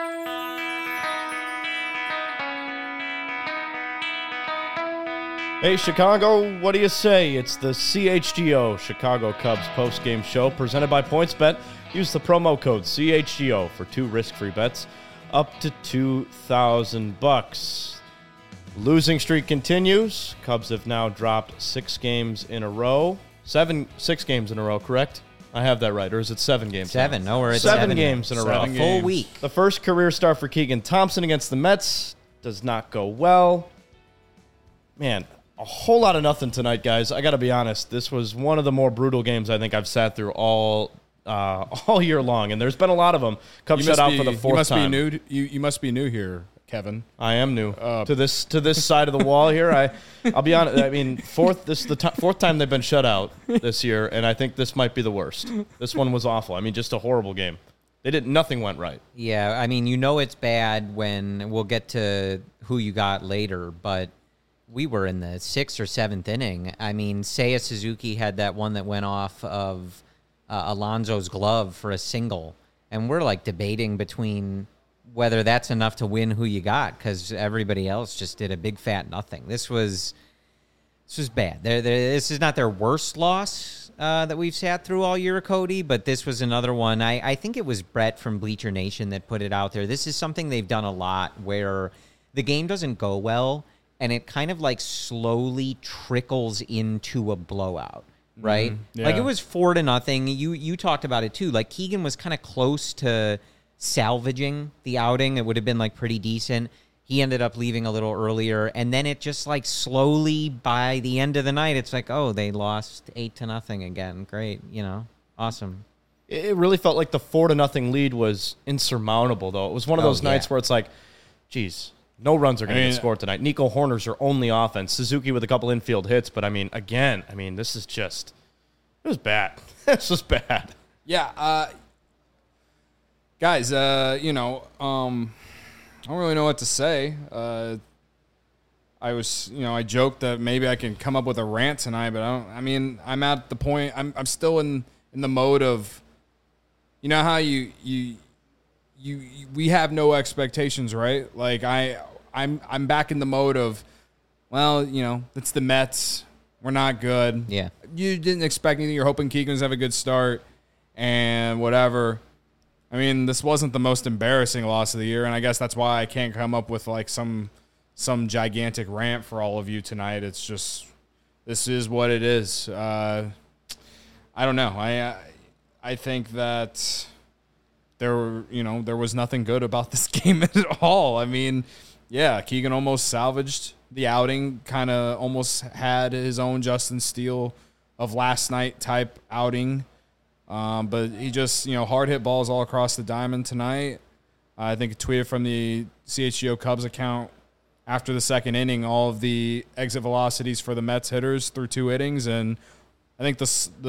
Hey, Chicago, what do you say? It's the CHGO, Chicago Cubs postgame show, presented by PointsBet. Use the promo code CHGO for 2 risk-free bets up to $2,000. Losing streak continues. Cubs have now dropped 6 games in a row. 6 games in a row, correct? I have that right, or is it 7 games? 7. No, we're at 7 games in a row. A full week. The first career start for Keegan Thompson against the Mets does not go well. Man, a whole lot of nothing tonight, guys. I got to be honest. This was one of the more brutal games I think I've sat through all year long, and there's been a lot of them. Cubs shut out for the 4th time. You must be new here, Kevin. I am new to this side of the wall here. I'll be honest. I mean, this is the 4th time they've been shut out this year, and I think this might be the worst. This one was awful. I mean, just a horrible game. Nothing went right. Yeah, I mean, it's bad when we'll get to who you got later, but we were in the 6th or 7th inning. I mean, Seiya Suzuki had that one that went off of Alonso's glove for a single, and we're like debating between whether that's enough to win who you got because everybody else just did a big fat nothing. This was bad. This is not their worst loss that we've sat through all year, Cody, but this was another one. I think it was Brett from Bleacher Nation that put it out there. This is something they've done a lot where the game doesn't go well, and it kind of like slowly trickles into a blowout, right? Yeah. Like it was 4-0. You talked about it too. Like Keegan was kind of close to salvaging the outing. It would have been like pretty decent. He ended up leaving a little earlier, and then it just like slowly by the end of the night, it's like, oh, they lost 8-0 again. Great, awesome. It really felt like the 4-0 lead was insurmountable, though. It was one of those nights where it's like, geez. No runs are going to get scored tonight. Nico Horner's your only offense. Suzuki with a couple infield hits. But, this is just – it was bad. This was bad. Yeah. Guys, I don't really know what to say. I joked that maybe I can come up with a rant tonight, but I'm at the point – I'm still in the mode of – how we have no expectations, right? Like I'm back in the mode of, well, it's the Mets. We're not good. Yeah. You didn't expect anything. You're hoping Keegan's have a good start and whatever. I mean, this wasn't the most embarrassing loss of the year, and I guess that's why I can't come up with like some gigantic rant for all of you tonight. It's just this is what it is. I don't know. I think that there was nothing good about this game at all. I mean, yeah, Keegan almost salvaged the outing, kind of almost had his own Justin Steele of last night type outing. But he just, hard hit balls all across the diamond tonight. I think a tweeted from the CHGO Cubs account after the 2nd inning, all of the exit velocities for the Mets hitters through 2 innings. And I think the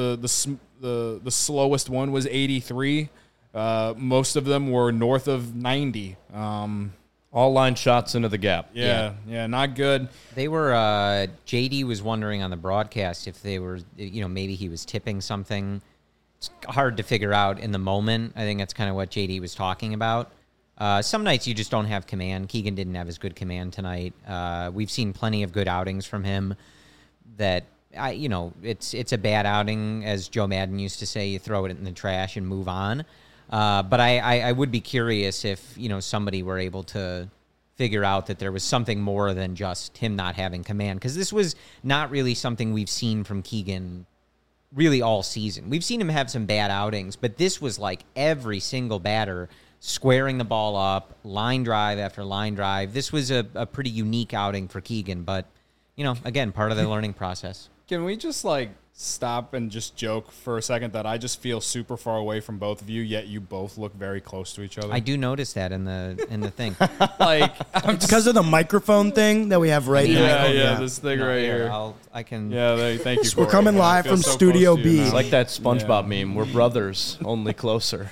slowest one was 83. Most of them were north of 90. All line shots into the gap. Yeah, not good. They were, JD was wondering on the broadcast if they were, maybe he was tipping something. It's hard to figure out in the moment. I think that's kind of what JD was talking about. Some nights you just don't have command. Keegan didn't have as good command tonight. We've seen plenty of good outings from him that, it's a bad outing. As Joe Madden used to say, you throw it in the trash and move on. But I would be curious if, somebody were able to figure out that there was something more than just him not having command. Because this was not really something we've seen from Keegan really all season. We've seen him have some bad outings, but this was like every single batter squaring the ball up, line drive after line drive. This was a pretty unique outing for Keegan, but, again, part of the learning process. Can we just, stop and just joke for a second that I just feel super far away from both of you, yet you both look very close to each other? I do notice that in the thing. It's because of the microphone thing that we have right now. Yeah, this thing right here. Thank you. We're coming live from Studio B. It's like that SpongeBob meme. We're brothers, only closer.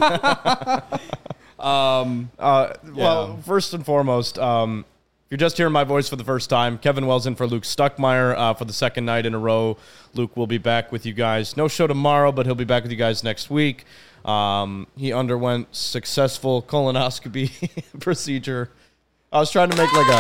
Well, first and foremost, if you're just hearing my voice for the first time, Kevin Wells in for Luke Stuckmeyer for the 2nd night in a row. Luke will be back with you guys. No show tomorrow, but he'll be back with you guys next week. He underwent successful colonoscopy procedure. I was trying to make like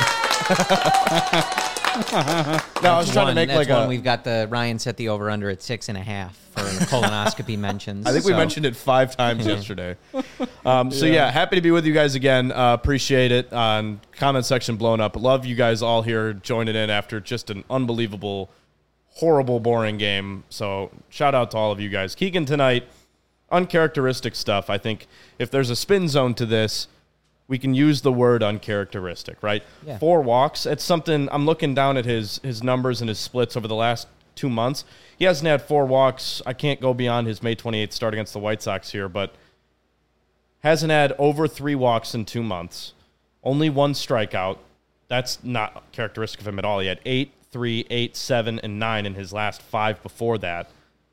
no, I was trying to make that's like one a. we've got the Ryan set the over under at 6.5 for colonoscopy mentions. I think we so- mentioned it 5 times yesterday. So yeah, happy to be with you guys again. Appreciate it. Comment section blown up. Love you guys all here joining in after just an unbelievable, horrible, boring game. So shout out to all of you guys. Keegan tonight, uncharacteristic stuff. I think if there's a spin zone to this, we can use the word uncharacteristic, right? Yeah. 4 walks. It's something I'm looking down at his numbers and his splits over the last 2 months. He hasn't had 4 walks. I can't go beyond his May 28th start against the White Sox here, but hasn't had over 3 walks in 2 months. Only 1 strikeout. That's not characteristic of him at all. He had 8, 3, 8, 7, and 9 in his last 5 before that.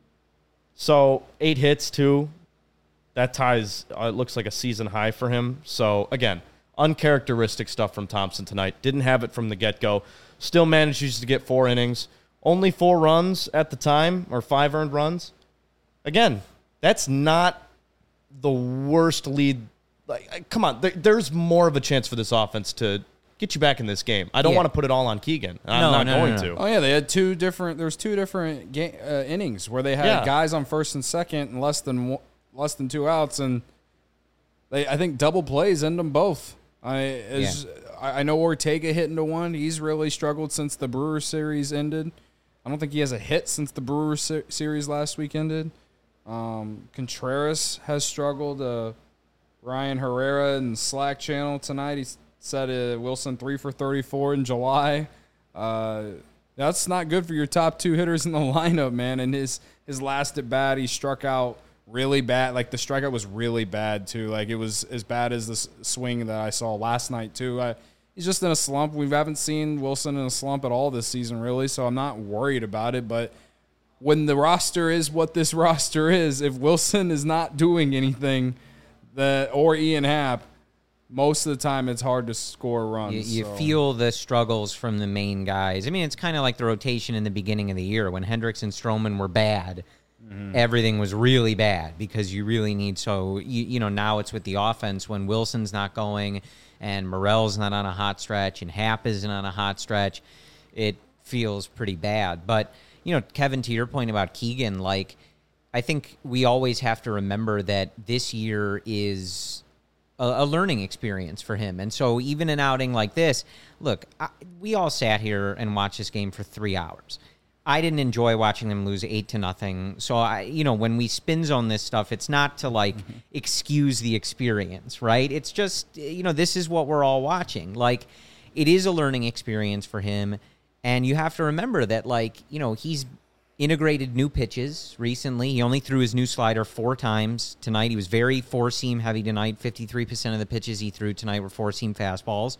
So 8 hits too. That ties, it looks like a season high for him. So, again, uncharacteristic stuff from Thompson tonight. Didn't have it from the get-go. Still manages to get 4 innings. Only 4 runs at the time, or 5 earned runs. Again, that's not the worst lead. Like, come on, there's more of a chance for this offense to get you back in this game. I don't want to put it all on Keegan. I'm not going to. Oh yeah, they had 2 different. There's 2 different innings where they had guys on first and second and less than 2 outs, and I think double plays end them both. I know Ortega hit into 1. He's really struggled since the Brewers series ended. I don't think he has a hit since the Brewers series last week ended. Contreras has struggled. Ryan Herrera in the Slack channel tonight, he said Wilson 3 for 34 in July. That's not good for your top 2 hitters in the lineup, man. And his last at bat, he struck out really bad. Like, the strikeout was really bad too. Like, it was as bad as the swing that I saw last night too. He's just in a slump. We haven't seen Wilson in a slump at all this season, really, so I'm not worried about it. But when the roster is what this roster is, if Wilson is not doing anything, or Ian Happ, most of the time it's hard to score runs. You feel the struggles from the main guys. I mean, it's kind of like the rotation in the beginning of the year when Hendricks and Stroman were bad. Everything was really bad because you really need. So now it's with the offense when Wilson's not going and Morel's not on a hot stretch and Happ isn't on a hot stretch. It feels pretty bad. But Kevin, to your point about Keegan, like, I think we always have to remember that this year is a learning experience for him. And so even an outing like this, look, we all sat here and watched this game for 3 hours. I didn't enjoy watching them lose 8-0. So when we spin zone this stuff, it's not to excuse the experience, right? It's just, this is what we're all watching. Like, it is a learning experience for him. And you have to remember that, he's integrated new pitches recently. He only threw his new slider 4 times tonight. He was very 4-seam heavy tonight. 53% of the pitches he threw tonight were 4-seam fastballs.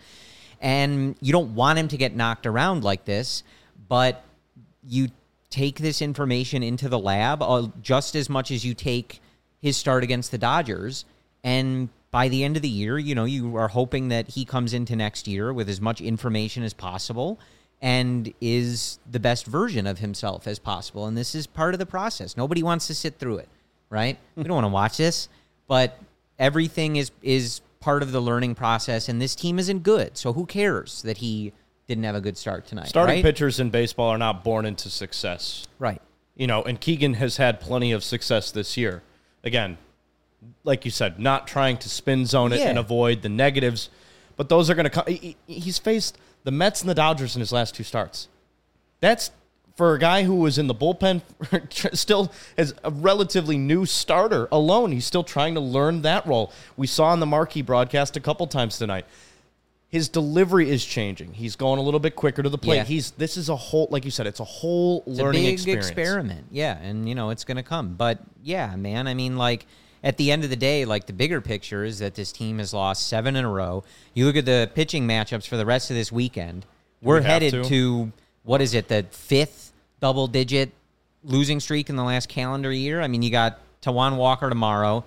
And you don't want him to get knocked around like this, but you take this information into the lab just as much as you take his start against the Dodgers. And by the end of the year, you are hoping that he comes into next year with as much information as possible and is the best version of himself as possible. And this is part of the process. Nobody wants to sit through it, right? We don't want to watch this, but everything is part of the learning process, and this team isn't good. So who cares that he didn't have a good start tonight? Starting pitchers in baseball are not born into success. Right. And Keegan has had plenty of success this year. Again, like you said, not trying to spin zone it and avoid the negatives, but those are going to come. He's faced the Mets and the Dodgers in his last 2 starts. That's, for a guy who was in the bullpen, still as a relatively new starter alone, he's still trying to learn that role. We saw on the marquee broadcast a couple times tonight. His delivery is changing. He's going a little bit quicker to the plate. Yeah. This is a whole, like you said, it's a whole learning experience. It's a big experience. experiment. Yeah, and it's going to come. But yeah, man, I mean, at the end of the day, the bigger picture is that this team has lost 7 in a row. You look at the pitching matchups for the rest of this weekend. We're headed to what is it, the 5th double-digit losing streak in the last calendar year? I mean, you got Tawan Walker tomorrow,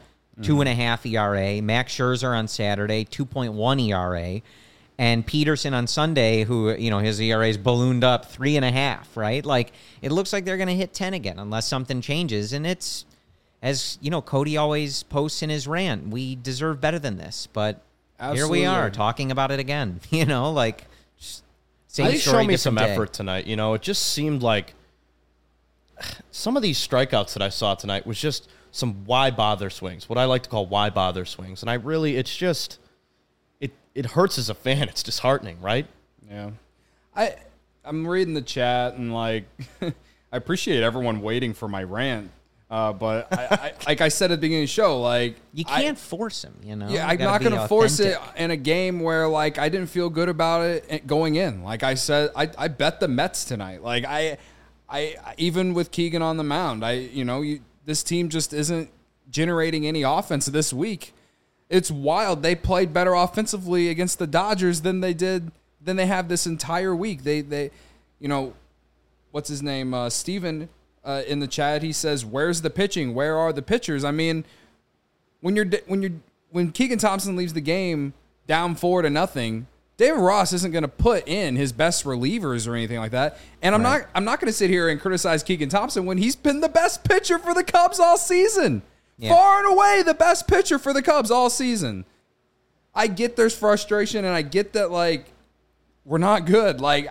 2.5 ERA. Max Scherzer on Saturday, 2.1 ERA. And Peterson on Sunday, who, his ERA's ballooned up 3.5, right? It looks like they're going to hit 10 again unless something changes. And as you know, Cody always posts in his rant, we deserve better than this. But here we are talking about it again. You know, like same They story, show me some different day. effort tonight. You know, it just seemed like some of these strikeouts that I saw tonight was just some why bother swings, what I like to call why bother swings. And it's just, it hurts as a fan. It's disheartening, right? Yeah. I'm reading the chat and like I appreciate everyone waiting for my rant. But I like I said at the beginning of the show, like You can't force him, you know? Yeah, You I'm gotta not be going to force it authentic. in a game where like I didn't feel good about it going in. Like I said, I bet the Mets tonight. Like I even with Keegan on the mound, this team just isn't generating any offense this week. It's wild. They played better offensively against the Dodgers than they have this entire week. They what's his name? Steven in the chat, he says, "Where's the pitching? Where are the pitchers?" I mean, when Keegan Thompson leaves the game down 4-0, David Ross isn't going to put in his best relievers or anything like that. And I'm not going to sit here and criticize Keegan Thompson when he's been the best pitcher for the Cubs all season. Yeah. Far and away the best pitcher for the Cubs all season. I get there's frustration and I get that like we're not good. Like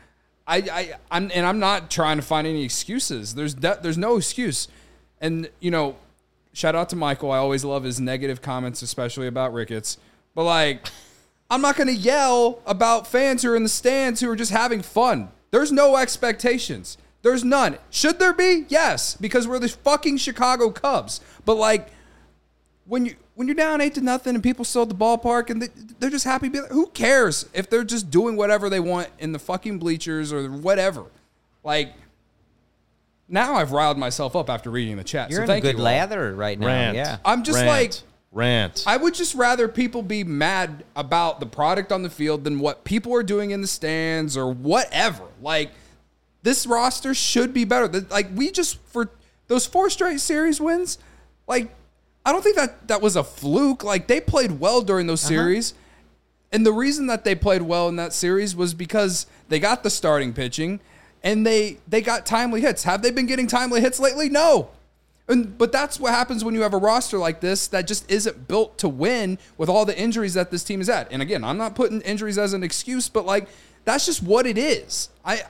I'm not trying to find any excuses. There's no excuse. And shout out to Michael. I always love his negative comments, especially about Ricketts. But like I'm not going to yell about fans who are in the stands who are just having fun. There's no expectations. There's none. Should there be? Yes, because we're the fucking Chicago Cubs. But like when you're down 8-0 and people still at the ballpark and they're just happy, who cares if they're just doing whatever they want in the fucking bleachers or whatever? Like now I've riled myself up after reading the chat. You're so in thank a good you all. lather right now. Rant. Yeah. I'm just Rant. I would just rather people be mad about the product on the field than what people are doing in the stands or whatever. Like, this roster should be better. Like, for those 4 straight series wins, like, I don't think that was a fluke. Like, they played well during those series. And the reason that they played well in that series was because they got the starting pitching and they got timely hits. Have they been getting timely hits lately? No. But that's what happens when you have a roster like this that just isn't built to win with all the injuries that this team is at. And again, I'm not putting injuries as an excuse, but like that's just what it is. I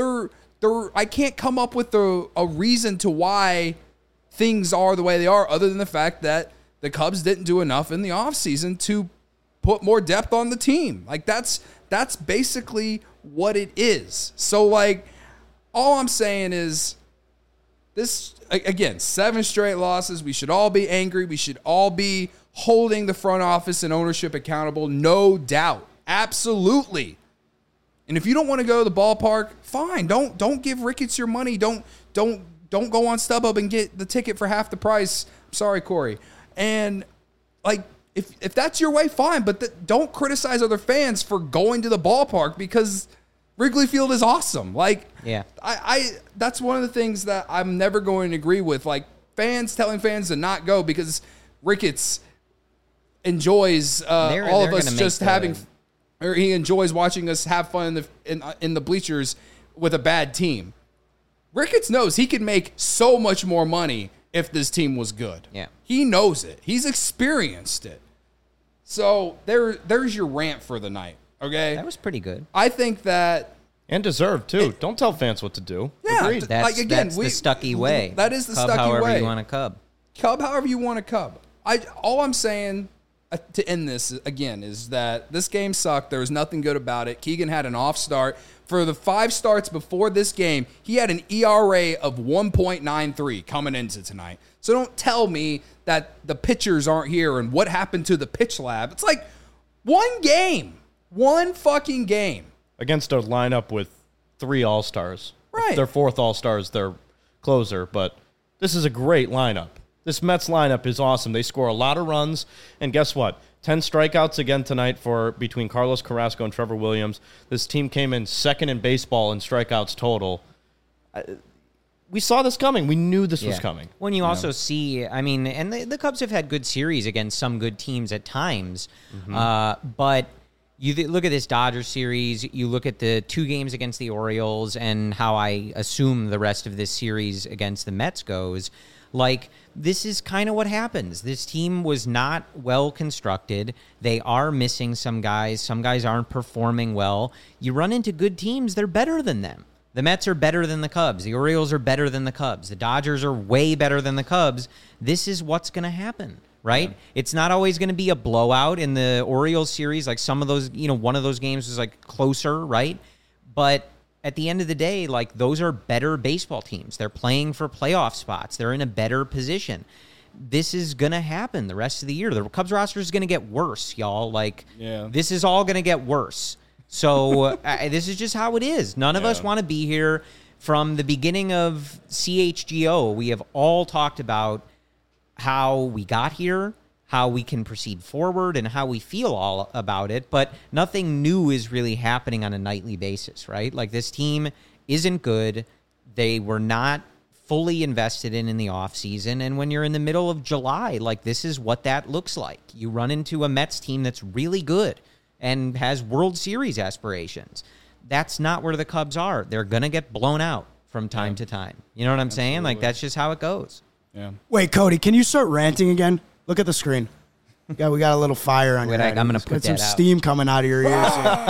can't come up with a reason to why things are the way they are other than the fact that the Cubs didn't do enough in the offseason to put more depth on the team. Like that's basically what it is. So like all I'm saying is this, again, 7 straight losses. We should all be angry. We should all be holding the front office and ownership accountable. No doubt. Absolutely. And if you don't want to go to the ballpark, fine. Don't give Ricketts your money. Don't go on StubHub and get the ticket for half the price. I'm sorry, Corey. And like if that's your way, fine. But don't criticize other fans for going to the ballpark because Wrigley Field is awesome. Like, yeah, I that's one of the things that I'm never going to agree with. Like fans telling fans to not go because Ricketts enjoys all of us just having, or he enjoys watching us have fun in the bleachers with a bad team. Ricketts knows he could make so much more money if this team was good. Yeah, he knows it. He's experienced it. So there's your rant for the night. Okay, that was pretty good. I think that and deserved too. Don't tell fans what to do. Yeah, Agreed. That's the Stuckey way. That is the Cub Stuckey however way. You want a Cub. Cub however you want a Cub. All I'm saying to end this again is that this game sucked. There was nothing good about it. Keegan had an off start. For the 5 starts before this game, he had an ERA of 1.93 coming into tonight. So don't tell me that the pitchers aren't here and what happened to the pitch lab. It's like one fucking game. Against a lineup with 3 All-Stars. Right. Their 4th All-Star is their closer, but this is a great lineup. This Mets lineup is awesome. They score a lot of runs, and guess what? 10 strikeouts again tonight between Carlos Carrasco and Trevor Williams. This team came in 2nd in baseball in strikeouts total. We saw this coming. We knew this was coming. When you also see, I mean, and the Cubs have had good series against some good teams at times, but you look at this Dodgers series, you look at the 2 games against the Orioles and how I assume the rest of this series against the Mets goes. Like, this is kind of what happens. This team was not well constructed. They are missing some guys. Some guys aren't performing well. You run into good teams, they're better than them. The Mets are better than the Cubs. The Orioles are better than the Cubs. The Dodgers are way better than the Cubs. This is what's going to happen, right? Yeah. It's not always going to be a blowout in the Orioles series. Like some of those, one of those games was like closer, right? But at the end of the day, like those are better baseball teams. They're playing for playoff spots. They're in a better position. This is going to happen the rest of the year. The Cubs roster is going to get worse, y'all. Like, This is all going to get worse. So this is just how it is. None of us want to be here. From the beginning of CHGO, we have all talked about how we got here, how we can proceed forward, and how we feel all about it. But nothing new is really happening on a nightly basis, right? Like this team isn't good. They were not fully invested in the offseason. And when you're in the middle of July, like this is what that looks like. You run into a Mets team that's really good and has World Series aspirations. That's not where the Cubs are. They're going to get blown out from time to time. You know what I'm saying? Like, that's just how it goes. Yeah. Wait, Cody, can you start ranting again? Look at the screen. Yeah, we got a little fire on your head. I'm going to put that out. Some steam coming out of your ears.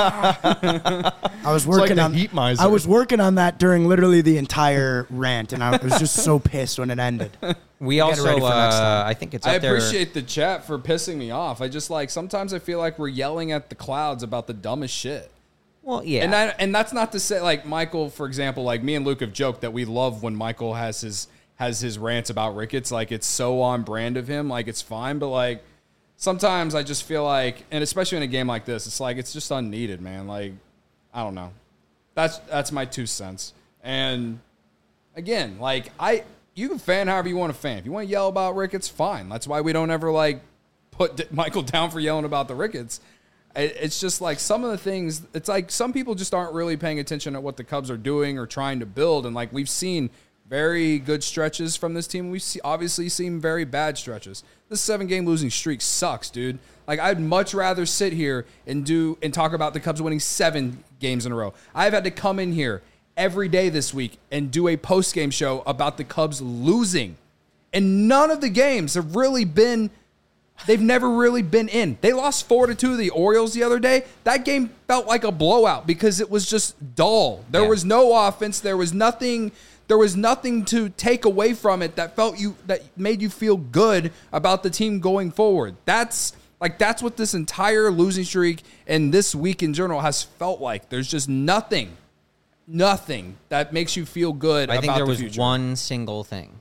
I was working on heat miser. I was working on that during literally the entire rant, and I was just so pissed when it ended. We also, I think it's up there. I appreciate the chat for pissing me off. I just sometimes I feel like we're yelling at the clouds about the dumbest shit. Well, yeah. And that's not to say, like, Michael, for example, like me and Luke have joked that we love when Michael has his rants about Ricketts. Like, it's so on brand of him. Like, it's fine. But, like, sometimes I just feel like, and especially in a game like this, it's like, it's just unneeded, man. Like, I don't know. That's my 2 cents. And, again, like, you can fan however you want to fan. If you want to yell about Ricketts, fine. That's why we don't ever, like, put Michael down for yelling about the Ricketts. It's just like some of the things, it's like some people just aren't really paying attention at what the Cubs are doing or trying to build. And like we've seen very good stretches from this team. We've obviously seen very bad stretches. This 7-game losing streak sucks, dude. Like I'd much rather sit here and talk about the Cubs winning 7 games in a row. I've had to come in here every day this week and do a post-game show about the Cubs losing. And none of the games have really been... They've never really been in. They lost 4-2 to the Orioles the other day. That game felt like a blowout because it was just dull. There was no offense. There was nothing to take away from it that made you feel good about the team going forward. That's what this entire losing streak and this week in general has felt like. There's just nothing that makes you feel good about the future. I think there was one single thing.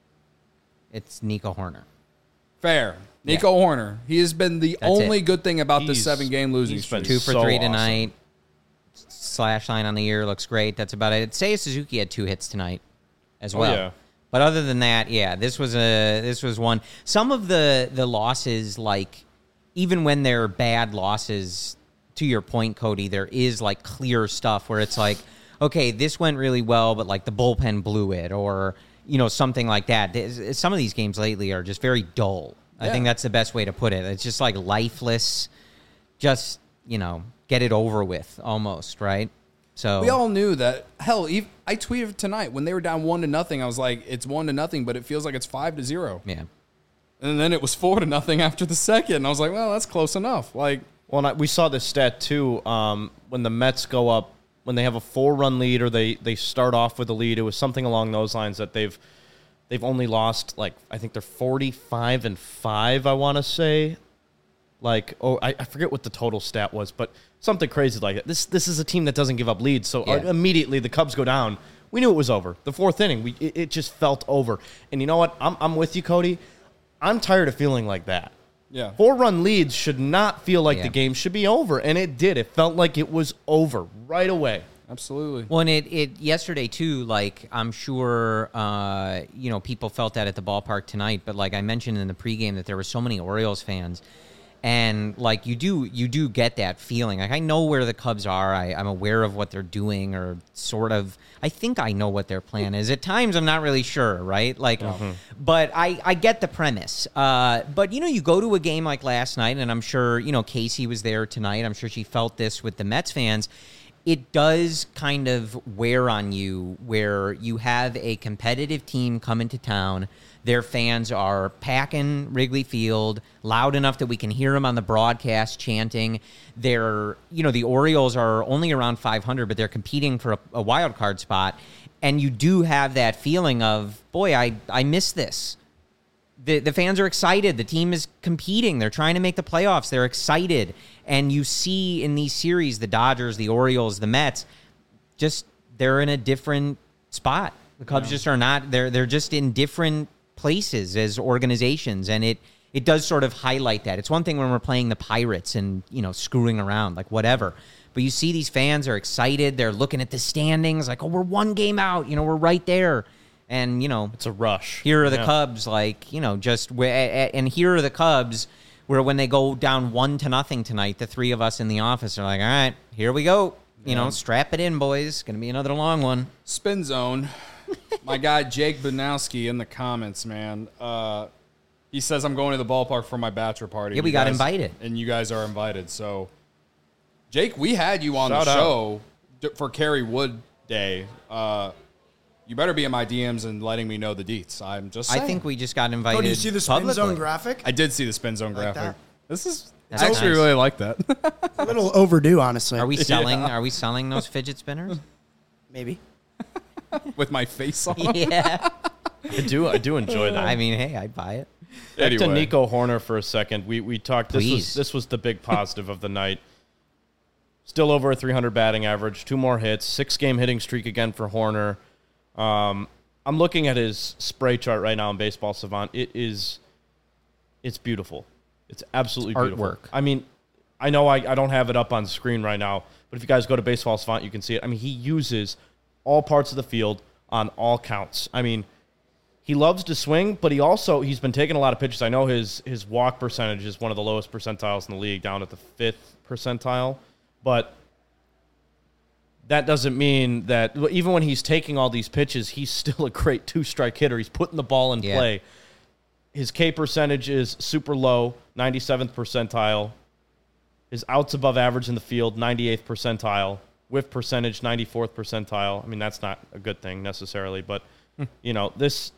It's Nico Hoerner. Fair. Nico Hoerner. He has been the only good thing about this 7-game losing streak. 2 for 3 tonight. Slash line on the year looks great. That's about it. Seiya Suzuki had 2 hits tonight as well. Yeah. But other than that, this was one. Some of the losses, like even when they're bad losses, to your point, Cody, there is like clear stuff where it's like, okay, this went really well, but like the bullpen blew it, or something like that. Some of these games lately are just very dull. I think that's the best way to put it. It's just like lifeless, just, get it over with almost, right? So we all knew that. Hell, I tweeted tonight when they were down 1-0. I was like, it's 1-0, but it feels like it's 5-0. Yeah. And then it was 4-0 after the second. And I was like, well, that's close enough. Like, well, we saw this stat too. When the Mets go up, when they have a 4-run lead or they start off with a lead, it was something along those lines that they've only lost, like, I think they're 45-5, I want to say. Like, I forget what the total stat was, but something crazy like that. This is a team that doesn't give up leads, so immediately the Cubs go down. We knew it was over. The 4th inning, it just felt over. And you know what? I'm with you, Cody. I'm tired of feeling like that. Yeah. 4-run leads should not feel like the game should be over, and it did. It felt like it was over right away. Absolutely. Well, and it yesterday too, like I'm sure people felt that at the ballpark tonight, but like I mentioned in the pregame that there were so many Orioles fans, and like you do get that feeling. Like I know where the Cubs are. I'm aware of what they're doing, or sort of. I think I know what their plan is. At times I'm not really sure, right? Like, but I get the premise. But you go to a game like last night, and I'm sure Casey was there tonight. I'm sure she felt this with the Mets fans. it does kind of wear on you where you have a competitive team come into town. Their fans are packing Wrigley Field loud enough that we can hear them on the broadcast chanting. They're, the Orioles are only around 500, but they're competing for a wild card spot. And you do have that feeling of, boy, I miss this. The fans are excited. The team is competing. They're trying to make the playoffs. They're excited. And you see in these series, the Dodgers, the Orioles, the Mets, they're in a different spot. The Cubs just are not. They're just in different places as organizations. And it does sort of highlight that. It's one thing when we're playing the Pirates and, screwing around, like whatever. But you see these fans are excited. They're looking at the standings like, oh, we're one game out. We're right there. And, it's a rush. Here are the Cubs, and here are the Cubs where when they go down 1-0 tonight, the three of us in the office are like, all right, here we go. Strap it in, boys. Going to be another long one. Spin Zone. My guy, Jake Banowski, in the comments, man. He says, I'm going to the ballpark for my bachelor party. Yeah, we got invited. And you guys are invited. So, Jake, we had you on Shout the out. show for Kerry Wood Day. You better be in my DMs and letting me know the deets. I'm just saying. I think we just got invited. Oh, do you see the Spin publicly. Zone graphic? I did see the Spin Zone Like graphic. that? It's That's actually nice. really like that. A little overdue, honestly. Are we selling? Are we selling those fidget spinners? Maybe. With my face on them. Yeah. I do enjoy that. I mean, hey, I'd buy it. Back to Anyway. Nico Horner for a second. We talked. Please. This was the big positive of the night. Still over a 300 batting average, 2 more hits, 6-game hitting streak again for Horner. I'm looking at his spray chart right now in Baseball Savant. It's beautiful. It's absolutely beautiful. Artwork. I mean, I know I don't have it up on screen right now, but if you guys go to Baseball Savant, you can see it. I mean, he uses all parts of the field on all counts. I mean, he loves to swing, but he's been taking a lot of pitches. I know his walk percentage is one of the lowest percentiles in the league, down at the 5th percentile, but that doesn't mean that even when he's taking all these pitches, he's still a great 2-strike hitter. He's putting the ball in play. His K percentage is super low, 97th percentile. His outs above average in the field, 98th percentile. Whiff percentage, 94th percentile. I mean, that's not a good thing necessarily, but, this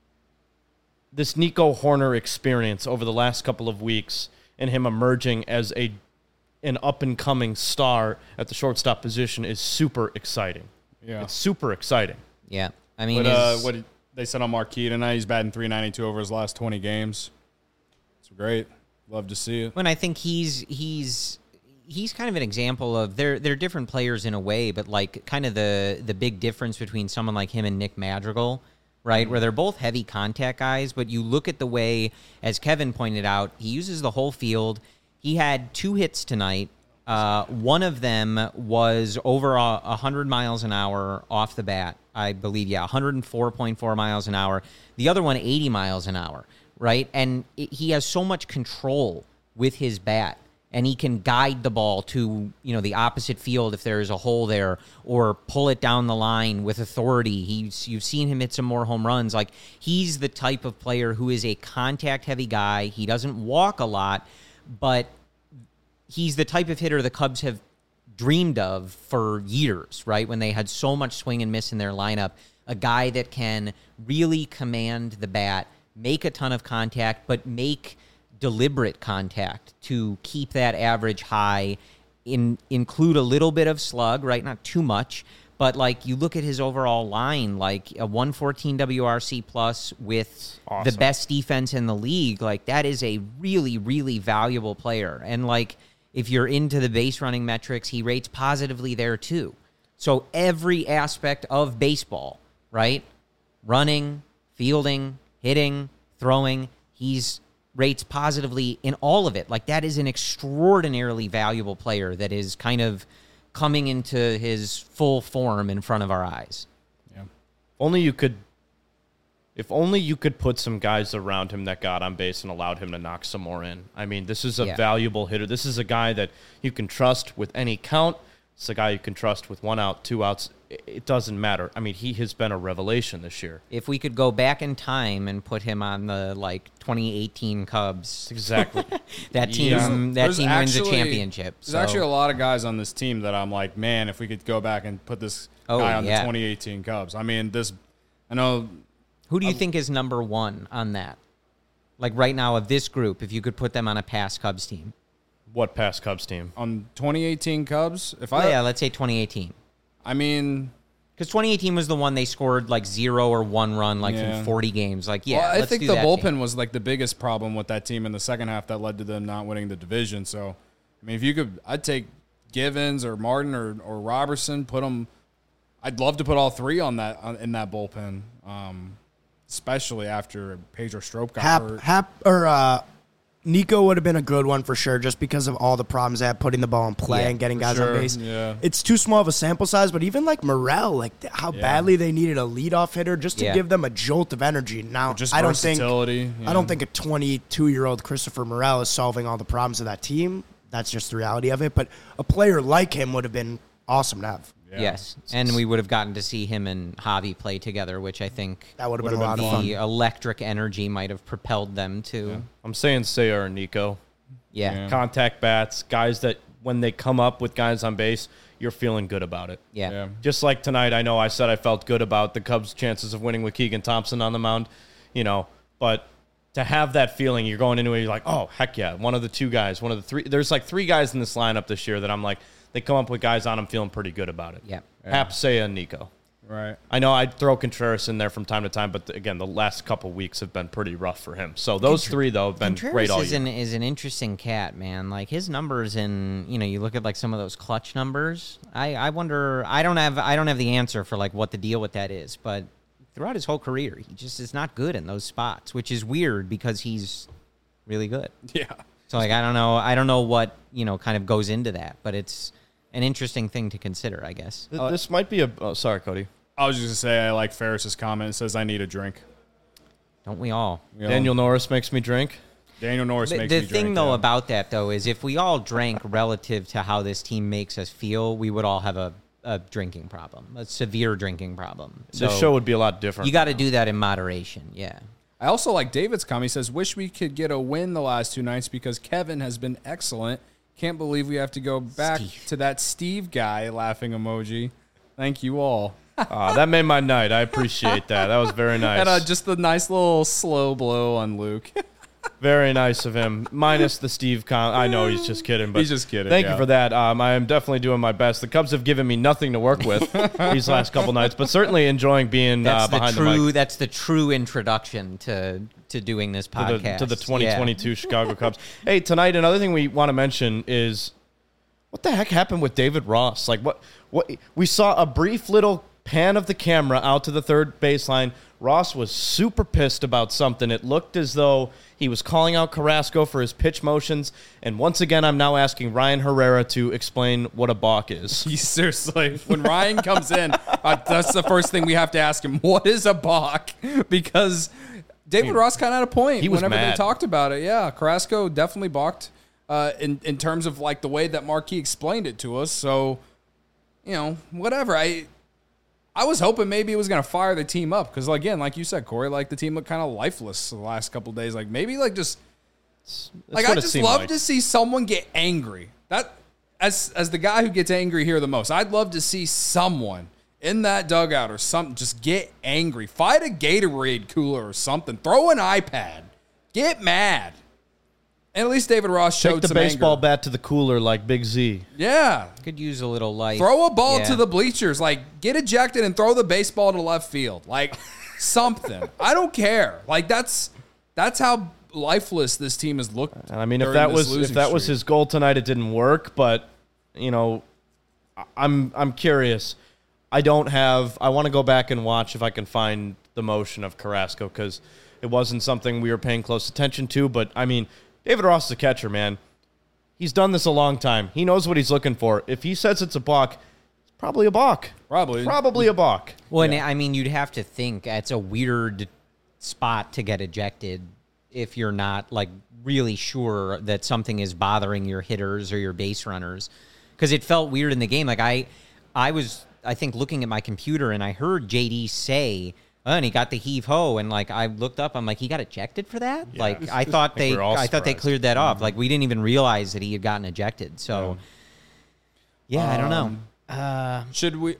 Nico Horner experience over the last couple of weeks and him emerging as an up-and-coming star at the shortstop position is super exciting. Yeah. It's super exciting. Yeah. I mean, But what they said on Marquee tonight, he's batting .392 over his last 20 games. It's great. Love to see it. when I think he's kind of an example of they're different players in a way, but like kind of the big difference between someone like him and Nick Madrigal, right? Where they're both heavy contact guys, but you look at the way, as Kevin pointed out, he uses the whole field. He had 2 hits tonight. One of them was over 100 miles an hour off the bat, I believe. Yeah, 104.4 miles an hour. The other one, 80 miles an hour, right? And he has so much control with his bat, and he can guide the ball to, the opposite field if there is a hole there, or pull it down the line with authority. You've seen him hit some more home runs. Like, he's the type of player who is a contact-heavy guy. He doesn't walk a lot, but he's the type of hitter the Cubs have dreamed of for years, right? When they had so much swing and miss in their lineup, a guy that can really command the bat, make a ton of contact, but make deliberate contact to keep that average high, include a little bit of slug, right? Not too much, but like you look at his overall line, like a 114 WRC plus with Awesome. the best defense in the league, like that is a really, really valuable player. And like, if you're into the base running metrics, he rates positively there too. So every aspect of baseball, right? Running, fielding, hitting, throwing, he's rates positively in all of it. Like, that is an extraordinarily valuable player that is kind of coming into his full form in front of our eyes. Yeah. If only you could put some guys around him that got on base and allowed him to knock some more in. I mean, this is a valuable hitter. This is a guy that you can trust with any count. It's a guy you can trust with 1 out, 2 outs. it doesn't matter. I mean, he has been a revelation this year. If we could go back in time and put him on the 2018 Cubs, Exactly. that team There's wins a actually- championship. There's So, actually a lot of guys on this team that I'm like, man, if we could go back and put this guy on the 2018 Cubs. I mean, I know. who do you think is number one on that? Like right now of this group, if you could put them on a past Cubs team. What past Cubs team? On 2018 Cubs, Let's say 2018. I mean, Because 2018 was the one they scored 0 or 1 run Yeah. in 40 games. I let's think do the that bullpen team. was the biggest problem with that team in the second half that led to them not winning the division. So, I mean, if you could, I'd take Givens or Martin or Robertson. Put them. I'd love to put all three in that bullpen, especially after Pedro Strop got hurt. Nico would have been a good one for sure, just because of all the problems they had putting the ball in play Yeah, and getting for guys sure, on base. yeah. It's too small of a sample size, but even Morel, how badly they needed a leadoff hitter just to Yeah. give them a jolt of energy. Now, Just I don't think versatility. I don't think a 22-year-old Christopher Morel is solving all the problems of that team. That's just the reality of it. But a player like him would have been awesome to have. Yeah. Yes, and we would have gotten to see him and Javi play together, which I think That would have been a lot of the fun. electric energy might have propelled them to. I'm saying Sayre and Nico. Yeah. Contact bats, guys that when they come up with guys on base, you're feeling good about it. Yeah. Just like tonight, I know I said I felt good about the Cubs' chances of winning with Keegan Thompson on the mound, but to have that feeling, you're going into it, you're like, oh, heck yeah, one of the two guys, one of the three. There's 3 guys in this lineup this year that I'm like, they come up with guys on them feeling pretty good about it. Yeah. Hap, Sayre, and Nico. Right. I know I'd throw Contreras in there from time to time, but again, the last couple weeks have been pretty rough for him. So those 3, though, have been great all year. Is an interesting cat, man. His numbers you look at some of those clutch numbers. I wonder. I don't have the answer for what the deal with that is, but throughout his whole career, he just is not good in those spots, which is weird because he's really good. Yeah. So I don't know what kind of goes into that, but it's an interesting thing to consider, I guess. This might be sorry, Cody. I was just going to say I like Ferris's comment. It says, I need a drink. Don't we all? Daniel Norris makes me drink. Daniel Norris makes me The drink. thing, though, yeah. about that, though, is if we all drank relative to how this team makes us feel, we would all have a drinking problem, a severe drinking problem. So The show would be a lot different. you got to do that in moderation, yeah. I also like David's comment. He says, wish we could get a win the last 2 nights because Kevin has been excellent. Can't believe we have to go back to that Steve guy, laughing emoji. Thank you all. That made my night. I appreciate that. That was very nice. And just the nice little slow blow on Luke. Very nice of him. Minus the Steve I know he's just kidding, but He's just kidding, Thank yeah. you for that. I am definitely doing my best. The Cubs have given me nothing to work with these last couple nights, but certainly enjoying being behind the mic. That's the true introduction to doing this podcast. To the 2022 Chicago Cubs. Hey, tonight another thing we want to mention is what the heck happened with David Ross? What we saw a brief little pan of the camera out to the third baseline. Ross was super pissed about something. It looked as though he was calling out Carrasco for his pitch motions. And once again, I'm now asking Ryan Herrera to explain what a balk is. Seriously, when Ryan comes in, that's the first thing we have to ask him. What is a balk? Because David Ross kind of had a point he was whenever mad. they talked about it. Yeah, Carrasco definitely balked in terms of the way that Marquis explained it to us. So, whatever. I was hoping maybe it was going to fire the team up because, again, like you said, Corey, the team looked kind of lifeless the last couple of days. Maybe just I just love to see someone get angry. That as the guy who gets angry here the most, I'd love to see someone in that dugout or something just get angry. Fight a Gatorade cooler or something. Throw an iPad. Get mad. And at least David Ross showed Take the some baseball anger. bat to the cooler like Big Z. Yeah. Could use a little light. Throw a ball Yeah. to the bleachers. Get ejected and throw the baseball to left field. Something. I don't care. That's how lifeless this team has looked. And I mean, if during that this was losing was streak. his goal tonight, it didn't work. But I'm curious. I want to go back and watch if I can find the motion of Carrasco because it wasn't something we were paying close attention to. But I mean, David Ross is a catcher, man. He's done this a long time. He knows what he's looking for. If he says it's a balk, it's probably a balk. Probably a balk. Well, and I mean, you'd have to think it's a weird spot to get ejected if you're not really sure that something is bothering your hitters or your base runners, because it felt weird in the game. I was I think, looking at my computer, and I heard JD say, oh, and he got the heave ho, and like I looked up, I'm like, he got ejected for that? Yeah. Like I thought we're all I thought they surprised. cleared that off. Like we didn't even realize that he had gotten ejected. So yeah, I don't know. Should we?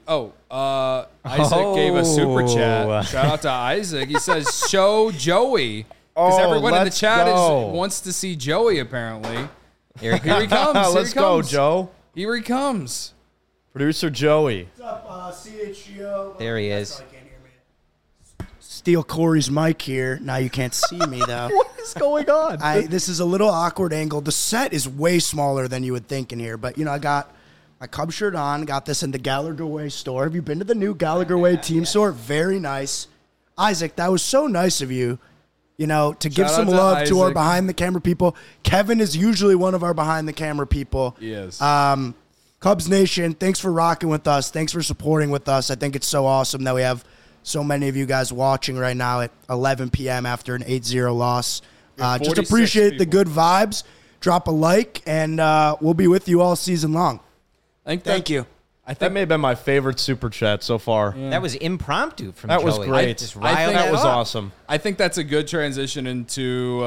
Isaac gave a super Oh. chat. Shout out to Isaac. He says, "Show Joey," because everyone in the let's chat go. wants to see Joey. Apparently, Here he here he comes. comes. Let's Here he go, comes. Joe. Here he comes. Producer Joey. What's up, CHGO? There he is. Probably can't hear me. Steal Corey's mic here. Now you can't see me, though. What is going on? This is a little awkward angle. The set is way smaller than you would think in here. But, I got my Cub shirt on. Got this in the Gallagher Way store. Have you been to the new Gallagher Way team store? Very nice. Isaac, that was so nice of you, to give Shout some out to love to our Isaac. behind-the-camera people. Kevin is usually one of our behind-the-camera people. Yes. Cubs Nation, thanks for rocking with us. Thanks for supporting with us. I think it's so awesome that we have so many of you guys watching right now at 11 p.m. after an 8-0 loss. Just 46 appreciate the people. good vibes. Drop a like, and we'll be with you all season long. Thank you. That may have been my favorite super chat so far. That was impromptu from That was Joey. great. Just I riled think That it was up. awesome. I think that's a good transition into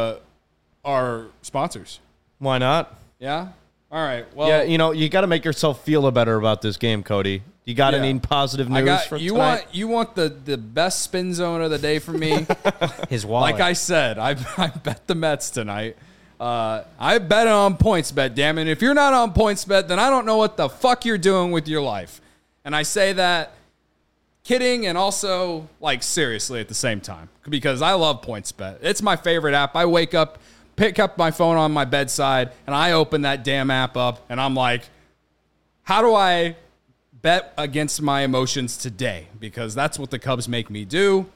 our sponsors. Why not? Yeah. All right. Well, Yeah, you got to make yourself feel better about this game, Cody. You got Yeah. any positive I news got for you. tonight? You want the best spin zone of the day from me? His wallet. Like I said, I bet the Mets tonight. I bet on points bet, damn it. If you're not on points bet, then I don't know what the fuck you're doing with your life. And I say that kidding and also like seriously at the same time because I love points bet. It's my favorite app. I wake up, pick up my phone on my bedside, and I open that damn app up and I'm like, how do I bet against my emotions today? Because that's what the Cubs make me do.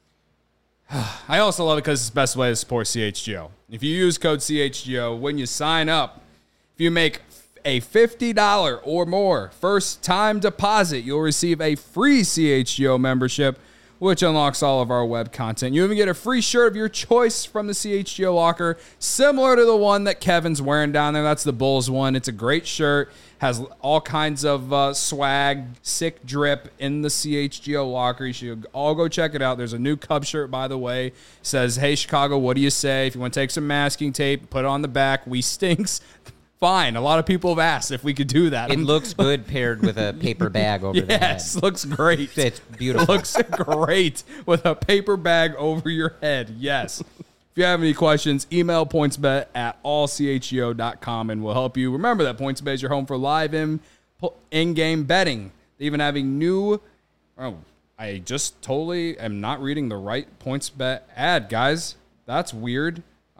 I also love it because it's the best way to support CHGO. If you use code CHGO when you sign up, if you make a $50 or more first-time deposit, you'll receive a free CHGO membership, which unlocks all of our web content. You even get a free shirt of your choice from the CHGO locker, similar to the one that Kevin's wearing down there. That's the Bulls one. It's a great shirt. Has all kinds of swag, sick drip in the CHGO locker. You should all go check it out. There's a new Cub shirt, by the way. It says, hey, Chicago, what do you say? If you want to take some masking tape, put it on the back. We stinks. Fine. A lot of people have asked if we could do that. It looks good paired with a paper bag over the head. Yes, looks great. It's beautiful. Looks great with a paper bag over your head. Yes. If you have any questions, email pointsbet@allchgo.com and we'll help you. Remember that PointsBet is your home for live in-game betting. They even having new... Oh, I just totally am not reading the right PointsBet ad, guys. That's weird.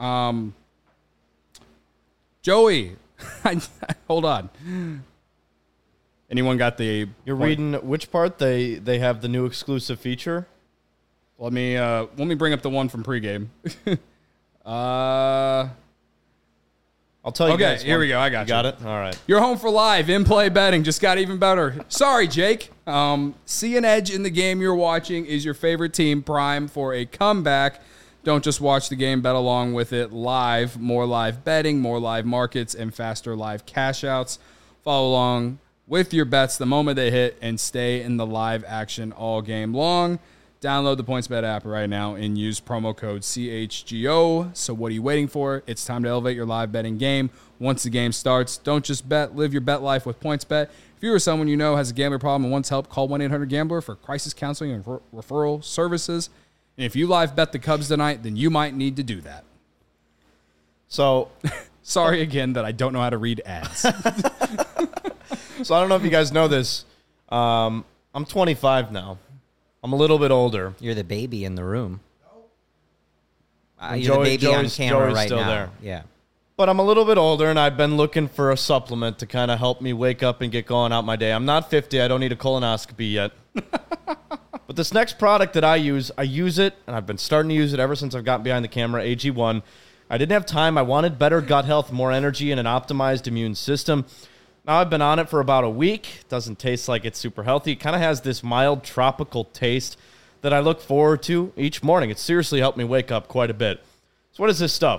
Joey, hold on. Anyone got the... You're reading which part? They have the new exclusive feature. Let me bring up the one from pregame. I'll tell you Okay, guys. here we go. I got You got it? All right. You're home for live in-play betting. Just got even better. Sorry, Jake. See an edge in the game you're watching. Is your favorite team prime for a comeback? Don't just watch the game, bet along with it live. More live betting, more live markets, and faster live cash outs. Follow along with your bets the moment they hit and stay in the live action all game long. Download the PointsBet app right now and use promo code CHGO. So what are you waiting for? It's time to elevate your live betting game. Once the game starts, don't just bet. Live your bet life with PointsBet. If you or someone you know has a gambling problem and wants help, call 1-800-GAMBLER for crisis counseling and referral services. And if you live bet the Cubs tonight, then you might need to do that. So Sorry again that I don't know how to read ads. I don't know if you guys know this. I'm 25 now. I'm a little bit older. You're the baby in the room. And You're the baby on Joey's camera right still now. there. Yeah. But I'm a little bit older, and I've been looking for a supplement to kind of help me wake up and get going out my day. I'm not 50. I don't need a colonoscopy yet. But this next product that I use it, and I've been starting to use it ever since I've gotten behind the camera, AG1. I didn't have time. I wanted better gut health, more energy, and an optimized immune system. Now I've been on it for about a week. Doesn't taste like it's super healthy. It kind of has this mild tropical taste that I look forward to each morning. It seriously helped me wake up quite a bit. So what is this stuff?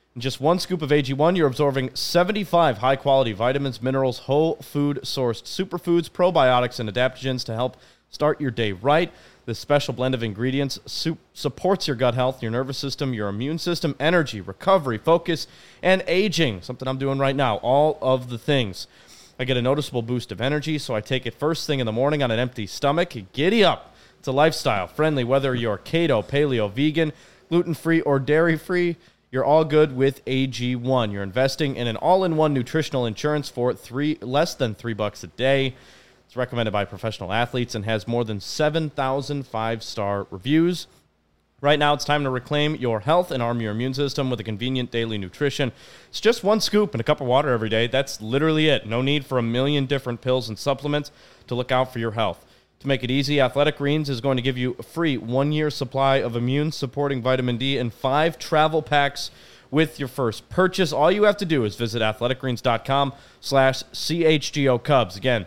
In just one scoop of AG1, you're absorbing 75 high-quality vitamins, minerals, whole food-sourced superfoods, probiotics, and adaptogens to help start your day right. This special blend of ingredients supports your gut health, your nervous system, your immune system, energy, recovery, focus, and aging. Something I'm doing right now. All of the things. I get a noticeable boost of energy, so I take it first thing in the morning on an empty stomach. Giddy up. It's a lifestyle friendly, whether you're keto, paleo, vegan, gluten-free, or dairy-free. You're all good with AG1. You're investing in an all-in-one nutritional insurance for less than $3 a day. It's recommended by professional athletes and has more than 7,000 five-star reviews. Right now, it's time to reclaim your health and arm your immune system with a convenient daily nutrition. It's just one scoop and a cup of water every day. That's literally it. No need for a million different pills and supplements to look out for your health. To make it easy, Athletic Greens is going to give you a free 1-year supply of immune-supporting vitamin D and 5 travel packs with your first purchase. All you have to do is visit athleticgreens.com/CHGO Cubs. Again,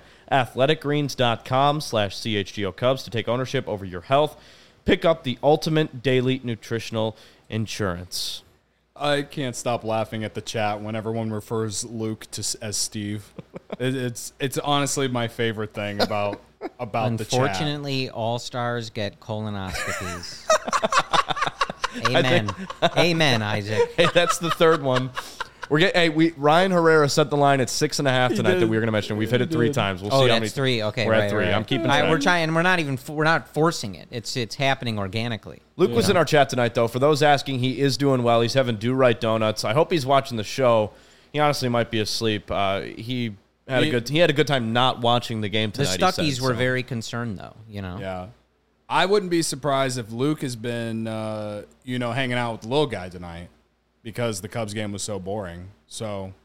athleticgreens.com/CHGO Cubs to take ownership over your health. Pick up the ultimate daily nutritional insurance. I can't stop laughing at the chat when everyone refers Luke as Steve. It's honestly my favorite thing about the chat. Unfortunately, all stars get colonoscopies. Amen. Amen, Isaac. Hey, that's the third one. Ryan Herrera set the line at 6.5 tonight that we were going to mention. We've hit it 3 times. We'll see how many. 3. Okay, we're at 3. I'm keeping track. We're trying. We're not forcing it. It's happening organically. Luke was in our chat tonight, though. For those asking, he is doing well. He's having do-right donuts. I hope he's watching the show. He honestly might be asleep. He had a good time not watching the game tonight. The Stuckies were very concerned, though. Yeah. I wouldn't be surprised if Luke has been, hanging out with the little guy tonight because the Cubs game was so boring. So,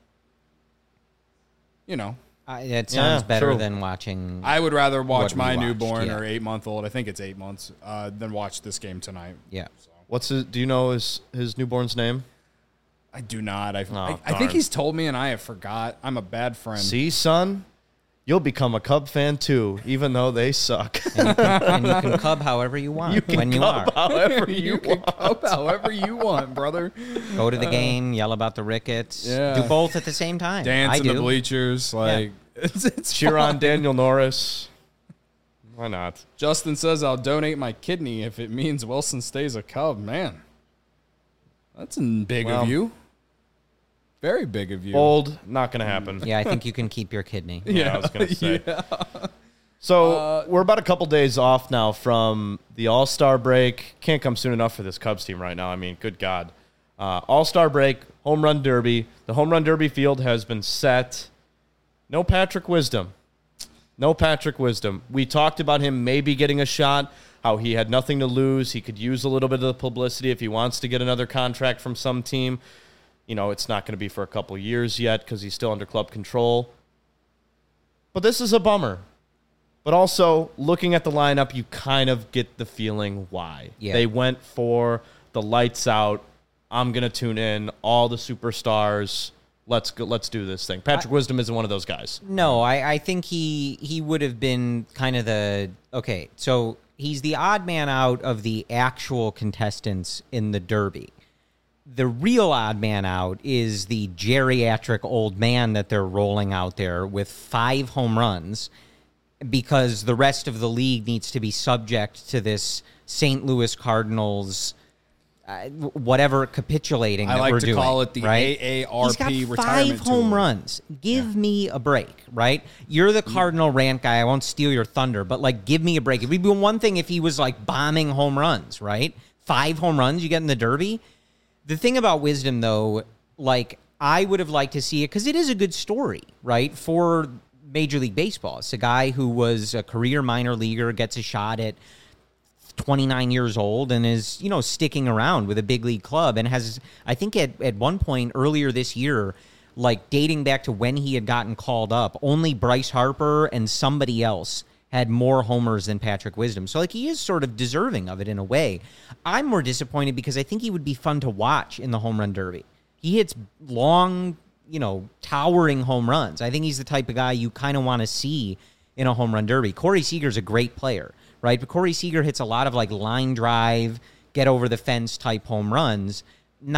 it sounds better than watching. I would rather watch my newborn or 8-month-old. I think it's 8 months than watch this game tonight. Yeah. So. Do you know his newborn's name? I do not. I think he's told me and I have forgot. I'm a bad friend. See, son? You'll become a Cub fan, too, even though they suck. And you can Cub however you want when you are. However you can Cub however you want, brother. Go to the game, yell about the Ricketts. Yeah. Do both at the same time. Dance in the bleachers. It's cheer on Daniel Norris. Why not? Justin says, I'll donate my kidney if it means Wilson stays a Cub. Man, that's big of you. Very big of you. Bold, not going to happen. Yeah, I think you can keep your kidney. Yeah, I was going to say. Yeah. So we're about a couple days off now from the All-Star break. Can't come soon enough for this Cubs team right now. I mean, good God. All-Star break, home run derby. The home run derby field has been set. No Patrick Wisdom. We talked about him maybe getting a shot, how he had nothing to lose. He could use a little bit of the publicity if he wants to get another contract from some team. It's not going to be for a couple years yet because he's still under club control. But this is a bummer. But also, looking at the lineup, you kind of get the feeling why. Yeah. They went for the lights out. I'm going to tune in. All the superstars. Let's go. Let's do this thing. Patrick Wisdom isn't one of those guys. No, I think he would have been kind of so he's the odd man out of the actual contestants in the Derby. The real odd man out is the geriatric old man that they're rolling out there with 5 home runs because the rest of the league needs to be subject to this St. Louis Cardinals whatever capitulating that we're doing. I like to call it the right? AARP retirement tour. He's got 5 home runs. Give me a break, right? You're the Cardinal rant guy. I won't steal your thunder, but give me a break. It would be one thing if he was bombing home runs, right? 5 home runs you get in the Derby. The thing about Wisdom, though, I would have liked to see it because it is a good story, right, for Major League Baseball. It's a guy who was a career minor leaguer, gets a shot at 29 years old and is, sticking around with a big league club and has, I think at one point earlier this year, dating back to when he had gotten called up, only Bryce Harper and somebody else had more homers than Patrick Wisdom. So, he is sort of deserving of it in a way. I'm more disappointed because I think he would be fun to watch in the home run derby. He hits long, towering home runs. I think he's the type of guy you kind of want to see in a home run derby. Corey Seager's a great player, right? But Corey Seager hits a lot of, line drive, get over the fence type home runs, not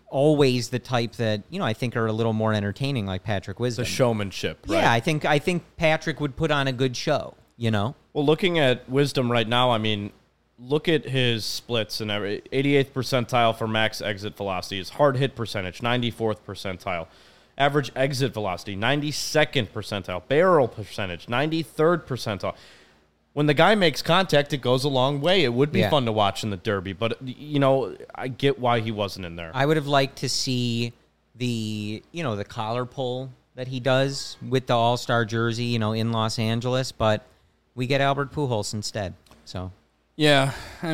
always the type that, I think are a little more entertaining, like Patrick Wisdom. The showmanship, right? Yeah, I think Patrick would put on a good show, Well, looking at Wisdom right now, I mean, look at his splits and 88th percentile for max exit velocity. His hard hit percentage, 94th percentile. Average exit velocity, 92nd percentile. Barrel percentage, 93rd percentile. When the guy makes contact, it goes a long way. It would be fun to watch in the Derby, but, I get why he wasn't in there. I would have liked to see the collar pull that he does with the All-Star jersey, in Los Angeles, but we get Albert Pujols instead, so... Yeah,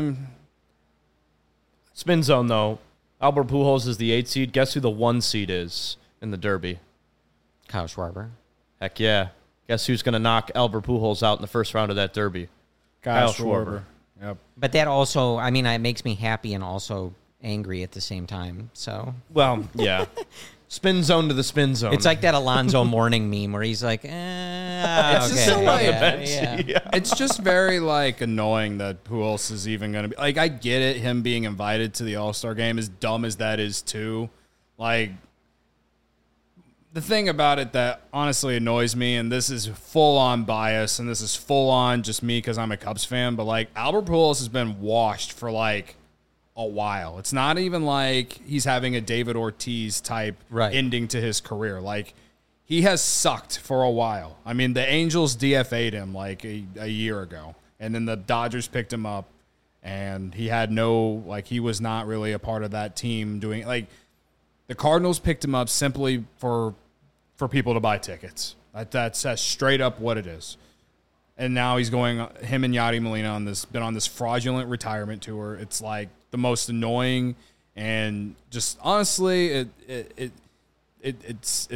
Spin zone, though. Albert Pujols is the 8 seed. Guess who the 1 seed is in the Derby? Kyle Schwarber. Heck yeah. Guess who's going to knock Albert Pujols out in the first round of that Derby? Kyle Schwarber. Yep. But that also, it makes me happy and also angry at the same time, so... Well, yeah. Spin zone to the spin zone. It's like that Alonzo Mourning meme where he's like, It's just so It's just very annoying that Pujols is even going to be I get it, him being invited to the All-Star game, as dumb as that is too. The thing about it that honestly annoys me, and this is full on bias, and this is full on just me because I'm a Cubs fan, but Albert Pujols has been washed for a while. It's not even like he's having a David Ortiz type ending to his career. He has sucked for a while. I mean, the Angels DFA'd him a year ago, and then the Dodgers picked him up, and he had he was not really a part of that team doing the Cardinals picked him up simply for people to buy tickets. That's straight up what it is. And now he's him and Yadi Molina been on this fraudulent retirement tour. It's the most annoying, and just honestly, it's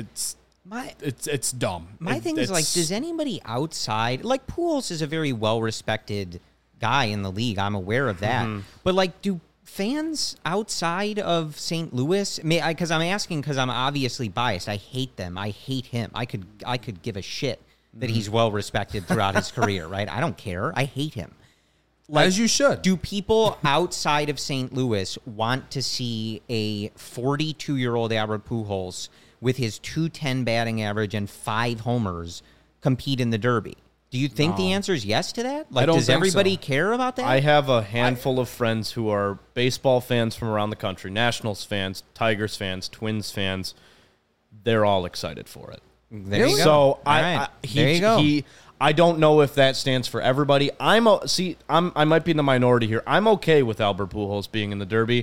dumb. My thing is does anybody outside Pujols is a very well respected guy in the league. I'm aware of that, but do fans outside of St. Louis? Because I'm asking because I'm obviously biased. I hate them. I hate him. I could give a shit that he's well respected throughout his career, right? I don't care. I hate him. As you should. Do people outside of St. Louis want to see a 42-year-old Albert Pujols with his .210 batting average and 5 homers compete in the Derby? Do you think the answer is yes to that? Does everybody care about that? I have a handful of friends who are baseball fans from around the country, Nationals fans, Tigers fans, Twins fans. They're all excited for it. There you go. So there you go. I don't know if that stands for everybody. I might be in the minority here. I'm okay with Albert Pujols being in the Derby.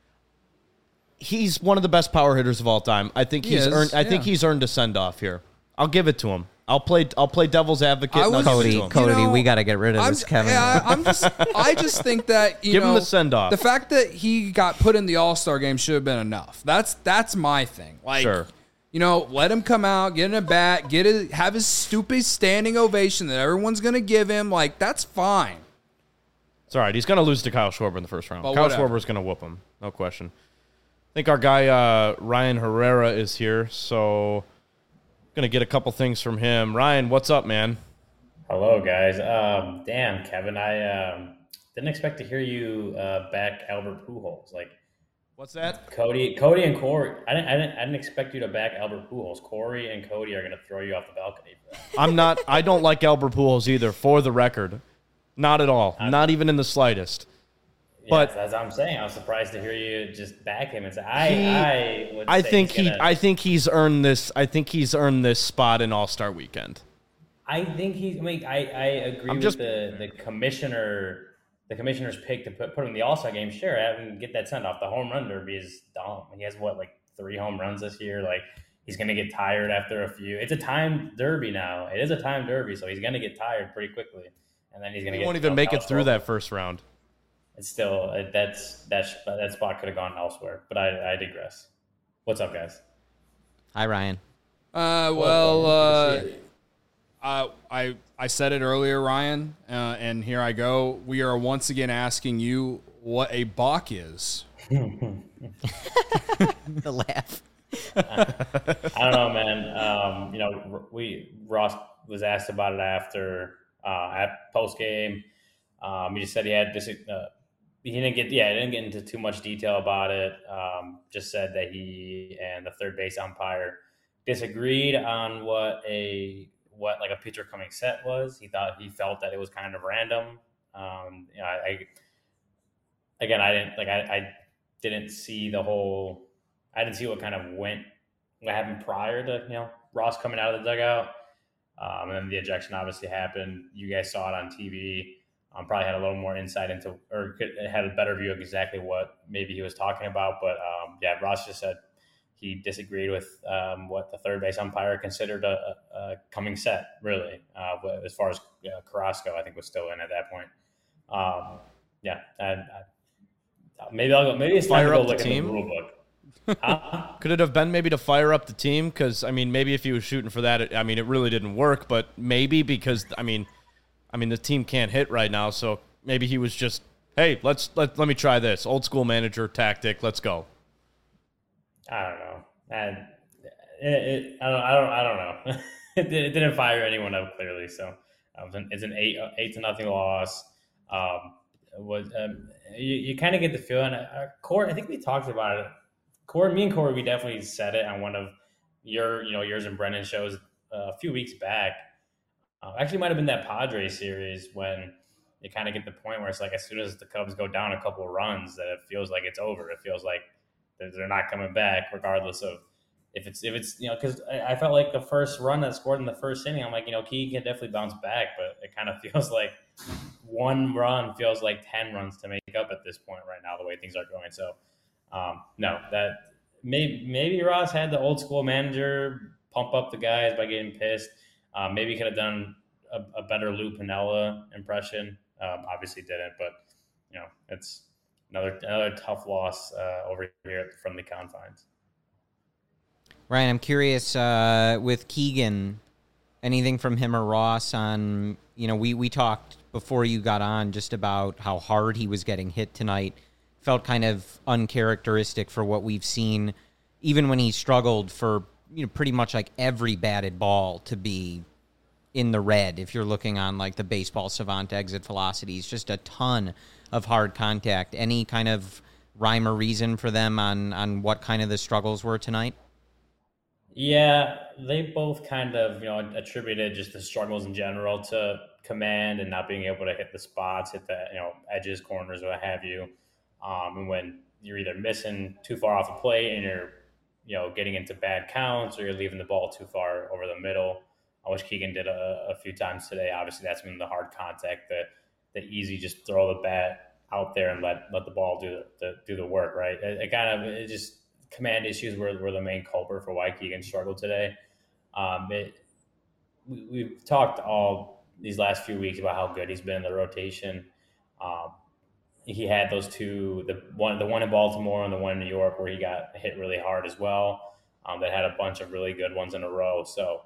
He's one of the best power hitters of all time. I think he's earned a send off here. I'll give it to him. I'll play devil's advocate. Cody, we got to get rid of this, Kevin. I just think that give him the send off. The fact that he got put in the All-Star game should have been enough. That's my thing. Sure. Let him come out, get in a bat, have his stupid standing ovation that everyone's going to give him. That's fine. It's all right. He's going to lose to Kyle Schwarber in the first round. But Kyle Schwarber's going to whoop him. No question. I think our guy Ryan Herrera is here, so going to get a couple things from him. Ryan, what's up, man? Hello, guys. Damn, Kevin, I didn't expect to hear you back Albert Pujols. What's that? Cody and Corey. I didn't expect you to back Albert Pujols. Corey and Cody are going to throw you off the balcony for that. I'm not. I don't like Albert Pujols either, for the record. Not at all. Not even in the slightest. Yeah, but as I'm saying, I was surprised to hear you just back him and say, I think he's earned this. I think he's earned this spot in All-Star Weekend. I think he's. I agree with the commissioner. The commissioner's pick to put him in the All-Star game, sure, have him get that send off. The home run derby is dumb. He has 3 home runs this year. He's gonna get tired after a few. It's a timed derby now. It is a timed derby, so he's gonna get tired pretty quickly, and then he's gonna. He won't even make it through that first round. It's still that spot could have gone elsewhere, but I digress. What's up, guys? Hi, Ryan. I said it earlier, Ryan, and here I go. We are once again asking you what a balk is. The laugh. I don't know, man. Ross was asked about it after at post game. He just said he had he didn't get into too much detail about it. Just said that he and the third base umpire disagreed on what a pitcher coming set was. He felt that it was kind of random. I didn't see I didn't see what happened prior to Ross coming out of the dugout. And then the ejection obviously happened. You guys saw it on TV. Probably had a little more insight into, or had a better view of exactly what maybe he was talking about. But Ross just said he disagreed with what the third base umpire considered a coming set, really, as far as Carrasco, I think, was still in at that point. Maybe it's time to go look at the rule book. Could it have been maybe to fire up the team? Because, maybe if he was shooting for that, it really didn't work. But maybe because, the team can't hit right now. So maybe he was just, hey, let me try this. Old school manager tactic. Let's go. I don't know. I don't know. It didn't fire anyone up clearly. So it's an 8-0 loss. You kind of get the feeling. Corey, I think we talked about it. Me and Corey, we definitely said it on one of yours and Brennan's shows a few weeks back. Actually, might have been that Padres series when you kind of get the point where it's like as soon as the Cubs go down a couple of runs, that it feels like it's over. It feels like they're not coming back, regardless of if it's because I felt like the first run that scored in the first inning, I'm like Keegan can definitely bounce back, but it kind of feels like one run feels like 10 runs to make up at this point right now, the way things are going. So no, that maybe Ross had the old school manager pump up the guys by getting pissed. Maybe he could have done a better Lou Piniella impression. Obviously didn't, but it's another tough loss over here from the confines. Ryan, I'm curious with Keegan, anything from him or Ross on, we talked before you got on just about how hard he was getting hit tonight. Felt kind of uncharacteristic for what we've seen, even when he struggled for pretty much like every batted ball to be in the red. If you're looking on like the Baseball Savant exit velocities, just a ton of hard contact. Any kind of rhyme or reason for them on what kind of the struggles were tonight? Yeah, they both kind of, attributed just the struggles in general to command and not being able to hit the spots, hit the, edges, corners, what have you. And when you're either missing too far off the plate and you're, getting into bad counts, or you're leaving the ball too far over the middle, which Keegan did a few times today. Obviously, that's been the hard contact, the easy just throw the bat out there and let the ball do the work, right? It just command issues were the main culprit for why Keegan struggled today. We've talked all these last few weeks about how good he's been in the rotation. He had those two, the one in Baltimore and the one in New York, where he got hit really hard as well. That had a bunch of really good ones in a row. So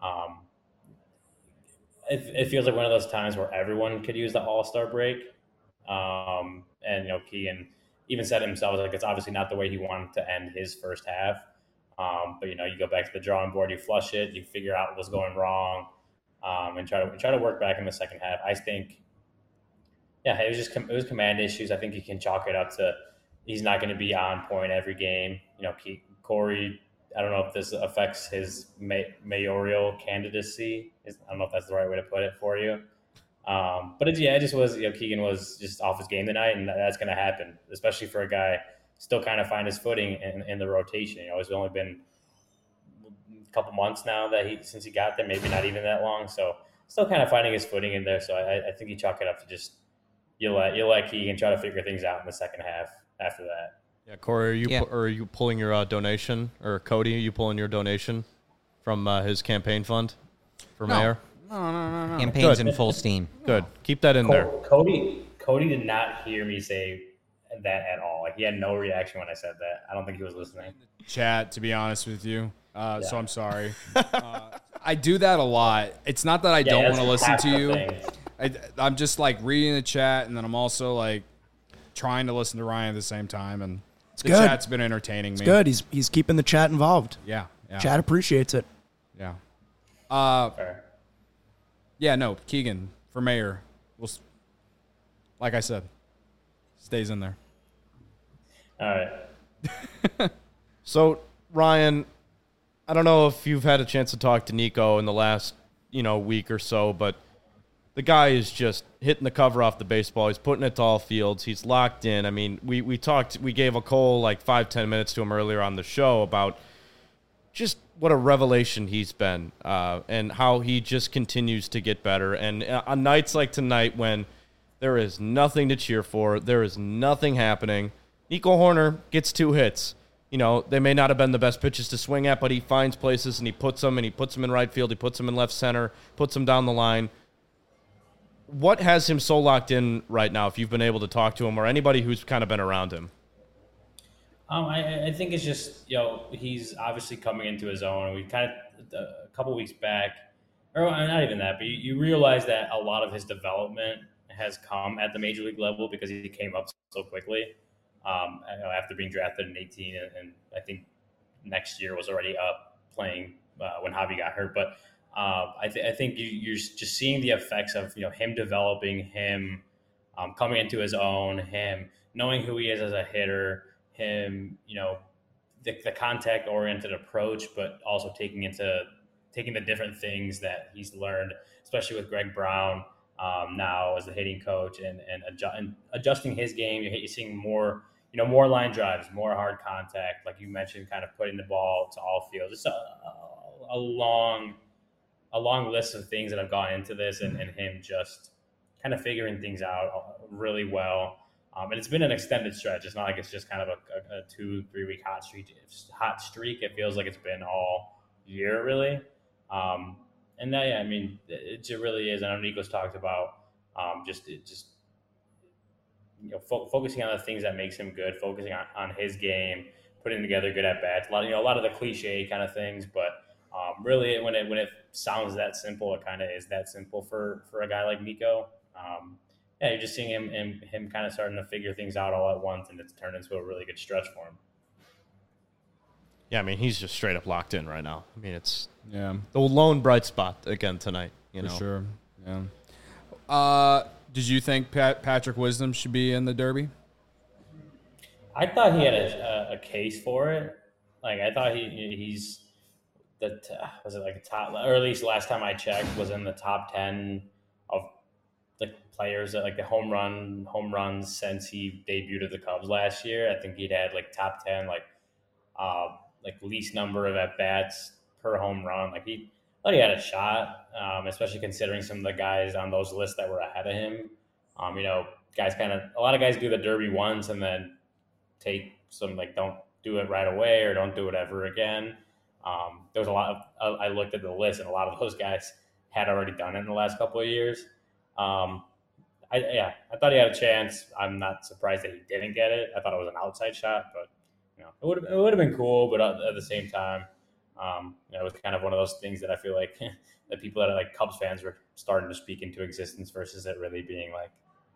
it feels like one of those times where everyone could use the All-Star break. And Keegan even said himself, like, it's obviously not the way he wanted to end his first half. But you go back to the drawing board, you flush it, you figure out what's going wrong, and try to work back in the second half. I think, it was command issues. I think you can chalk it up to he's not going to be on point every game. Corey, I don't know if this affects his mayoral candidacy. I don't know if that's the right way to put it for you. But it just was, Keegan was just off his game tonight, and that's going to happen, especially for a guy still kind of find his footing in the rotation. It's only been a couple months now since he got there, maybe not even that long. So still kind of finding his footing in there. So I think you chalk it up to just, you let Keegan try to figure things out in the second half after that. Yeah, Corey, are you pulling your donation, or Cody, are you pulling your donation from his campaign fund for mayor? No. Campaign's in full steam. Good. Keep that in there. Cody did not hear me say that at all. Like, he had no reaction when I said that. I don't think he was listening. Chat, to be honest with you. So I'm sorry. I do that a lot. It's not that I don't want to listen to you. I'm just like reading the chat, and then I'm also like trying to listen to Ryan at the same time. And the chat's been entertaining me. It's good. He's keeping the chat involved. Yeah. Chat appreciates it. Yeah. Fair. Yeah, no, Keegan for mayor. Like I said, Stays in there. All right. So, Ryan, I don't know if you've had a chance to talk to Nico in the last, week or so, but the guy is just hitting the cover off the baseball. He's putting it to all fields. He's locked in. I mean, we gave a Cole like 5-10 minutes to him earlier on the show about just what a revelation he's been and how he just continues to get better. And on nights like tonight when there is nothing to cheer for, there is nothing happening, Nico Hoerner gets 2 hits. They may not have been the best pitches to swing at, but he finds places and he puts them in right field. He puts them in left center, puts them down the line. What has him so locked in right now, if you've been able to talk to him or anybody who's kind of been around him? I think it's just, he's obviously coming into his own. We kind of, a couple weeks back, or not even that, but you realize that a lot of his development has come at the major league level because he came up so quickly. After being drafted in 18, and I think next year was already up playing when Javi got hurt. But I think you're just seeing the effects of him developing, him coming into his own, him knowing who he is as a hitter, him the contact oriented approach, but also taking the different things that he's learned, especially with Greg Brown now as the hitting coach and adjusting his game. You're seeing more. More line drives, more hard contact, like you mentioned, kind of putting the ball to all fields. It's a long list of things that have gone into this, and him just kind of figuring things out really well. And it's been an extended stretch. It's not like it's just kind of a 2-3 week hot streak. It feels like it's been all year, really. And that, I mean, it really is. I know Nico's talked about focusing on the things that makes him good, focusing on his game, putting together good at bats. A lot of the cliche kind of things, but really, when it sounds that simple, it kind of is that simple for a guy like Nico. You're just seeing him kind of starting to figure things out all at once, and it's turned into a really good stretch for him. Yeah, I mean, he's just straight up locked in right now. I mean, it's the lone bright spot again tonight. For sure. Yeah. Did you think Patrick Wisdom should be in the Derby? I thought he had a case for it. Like, I thought he's was it like a top, or at least last time I checked, was in the top 10 of the players that like the home runs since he debuted at the Cubs last year. I think he'd had like top 10, like least number of at bats per home run. Like he had a shot, especially considering some of the guys on those lists that were ahead of him. A lot of guys do the Derby once and then take some, don't do it right away or don't do it ever again. There was a lot of, I looked at the list and a lot of those guys had already done it in the last couple of years. I thought he had a chance. I'm not surprised that he didn't get it. I thought it was an outside shot, but it would have been cool. But at the same time, it was kind of one of those things that I feel like the people that are like Cubs fans were starting to speak into existence versus it really being like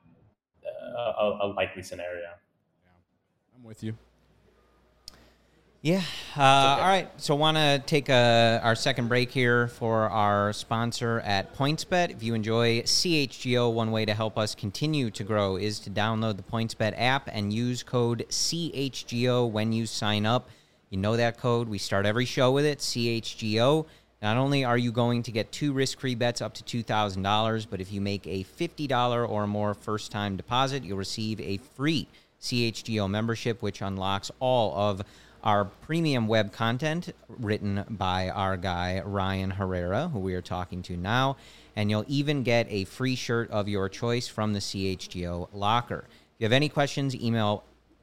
a likely scenario. Yeah, I'm with you. Yeah. All right. So want to take our second break here for our sponsor at PointsBet. If you enjoy CHGO, one way to help us continue to grow is to download the PointsBet app and use code CHGO when you sign up. You know that code. We start every show with it, CHGO. Not only are you going to get 2 risk-free bets up to $2,000, but if you make a $50 or more first-time deposit, you'll receive a free CHGO membership, which unlocks all of our premium web content written by our guy, Ryan Herrera, who we are talking to now. And you'll even get a free shirt of your choice from the CHGO locker. If you have any questions, email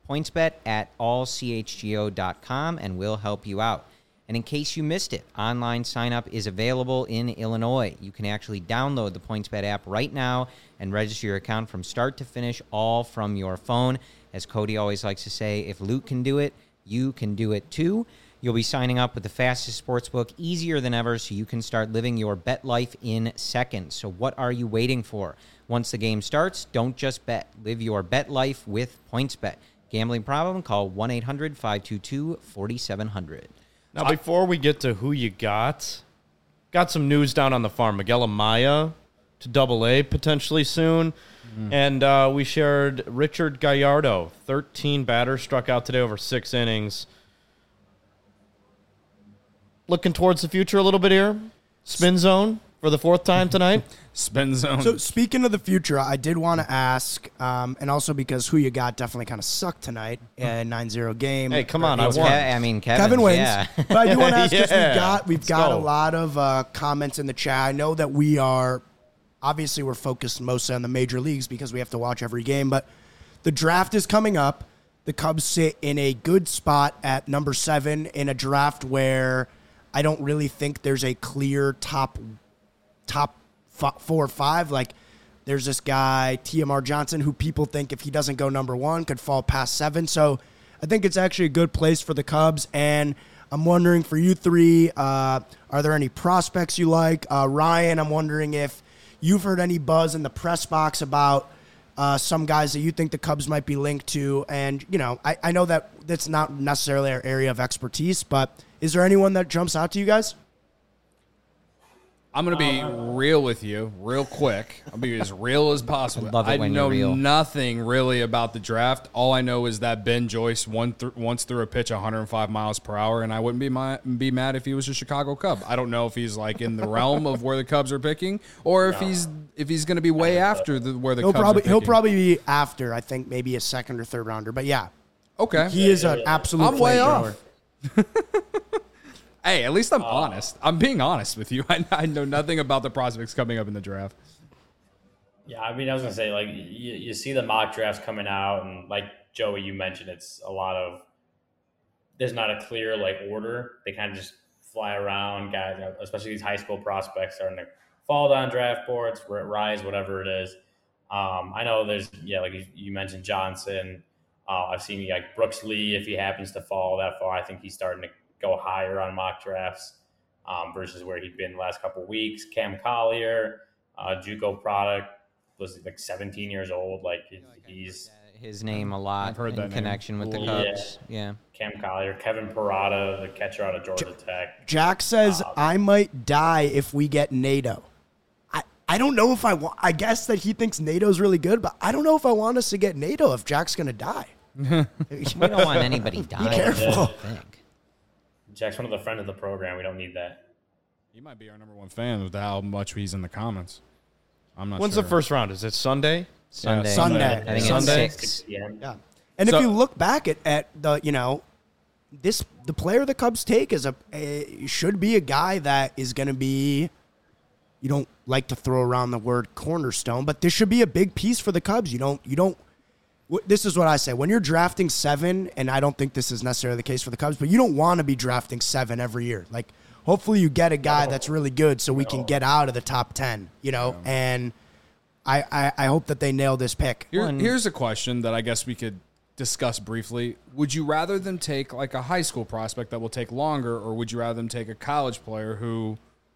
pointsbet@allchgo.com and we'll help you out. And in case you missed it, online sign-up is available in Illinois. You can actually download the PointsBet app right now and register your account from start to finish, all from your phone. As Cody always likes to say, if Luke can do it, you can do it too. You'll be signing up with the fastest sportsbook, easier than ever, so you can start living your bet life in seconds. So what are you waiting for? Once the game starts, don't just bet. Live your bet life with PointsBet. Gambling problem? Call 1-800-522-4700. Now, before we get to who you got some news down on the farm. Miguel Amaya to Double-A potentially soon. And we shared Richard Gallardo, 13 batters, struck out today over 6 innings. Looking towards the future a little bit here. Spin zone for the 4th time tonight. Spin zone. So speaking of the future, I did want to ask, and also because who you got definitely kind of sucked tonight in 9-0 game. Hey, come on, Kevin wins. Yeah. But I do want to ask because Yeah. we've got a lot of comments in the chat. I know that we're focused mostly on the major leagues because we have to watch every game, but the draft is coming up. The Cubs sit in a good spot at number 7 in a draft where I don't really think there's a clear top 4 or 5. Like, there's this guy, TMR Johnson, who people think if he doesn't go number 1 could fall past 7. So I think it's actually a good place for the Cubs. And I'm wondering for you three, are there any prospects you like? Ryan, I'm wondering if you've heard any buzz in the press box about some guys that you think the Cubs might be linked to. And, I know that that's not necessarily our area of expertise, but is there anyone that jumps out to you guys? I'm going to be real with you real quick. I'll be as real as possible. Love it when know you're real. nothing really about the draft. All I know is that Ben Joyce once threw a pitch 105 miles per hour, and I wouldn't be mad if he was a Chicago Cub. I don't know if he's like in the realm of where the Cubs are picking, or if he's going to be way after where the Cubs are picking. He'll probably be after, I think, maybe a 2nd or 3rd rounder. But yeah, okay, he is an absolute. I'm way flamethrower. off. Hey, at least I'm honest. I'm being honest with you. I know nothing about the prospects coming up in the draft. Yeah, I mean, I was going to say, like, you see the mock drafts coming out, and like Joey, you mentioned, it's a lot of – there's not a clear, like, order. They kind of just fly around. Guys, especially these high school prospects, starting to fall down draft boards, rise, whatever it is. I know there's, like you mentioned Johnson. I've seen, like, Brooks Lee, if he happens to fall that far, I think he's starting to go higher on mock drafts versus where he'd been the last couple of weeks. Cam Collier, JUCO product, was like 17 years old. Like, he's his name a lot. I've heard that connection name. with the Cubs. Yeah. Cam Collier, Kevin Parada, the catcher out of Georgia Tech. Jack says, I might die if we get Nato. I don't know if I want. I guess that he thinks Nato's really good, but I don't know if I want us to get Nato if Jack's going to die. We don't want anybody dying. Be careful. Jack's one of the friends of the program. We don't need that. He might be our number 1 fan with how much he's in the comments. I'm not When's sure. the first round? Is it Sunday? Sunday. Sunday. I think Sunday? it's 6. PM. Yeah. And if you look back at the, the player the Cubs take is should be a guy that is going to be, you don't like to throw around the word cornerstone, but this should be a big piece for the Cubs. This is what I say. When you're drafting 7, and I don't think this is necessarily the case for the Cubs, but you don't want to be drafting 7 every year. Like, hopefully you get a guy that's really good so we can get out of the top 10, and I hope that they nail this pick. Here's a question that I guess we could discuss briefly. Would you rather them take like a high school prospect that will take longer, or would you rather them take a college player who,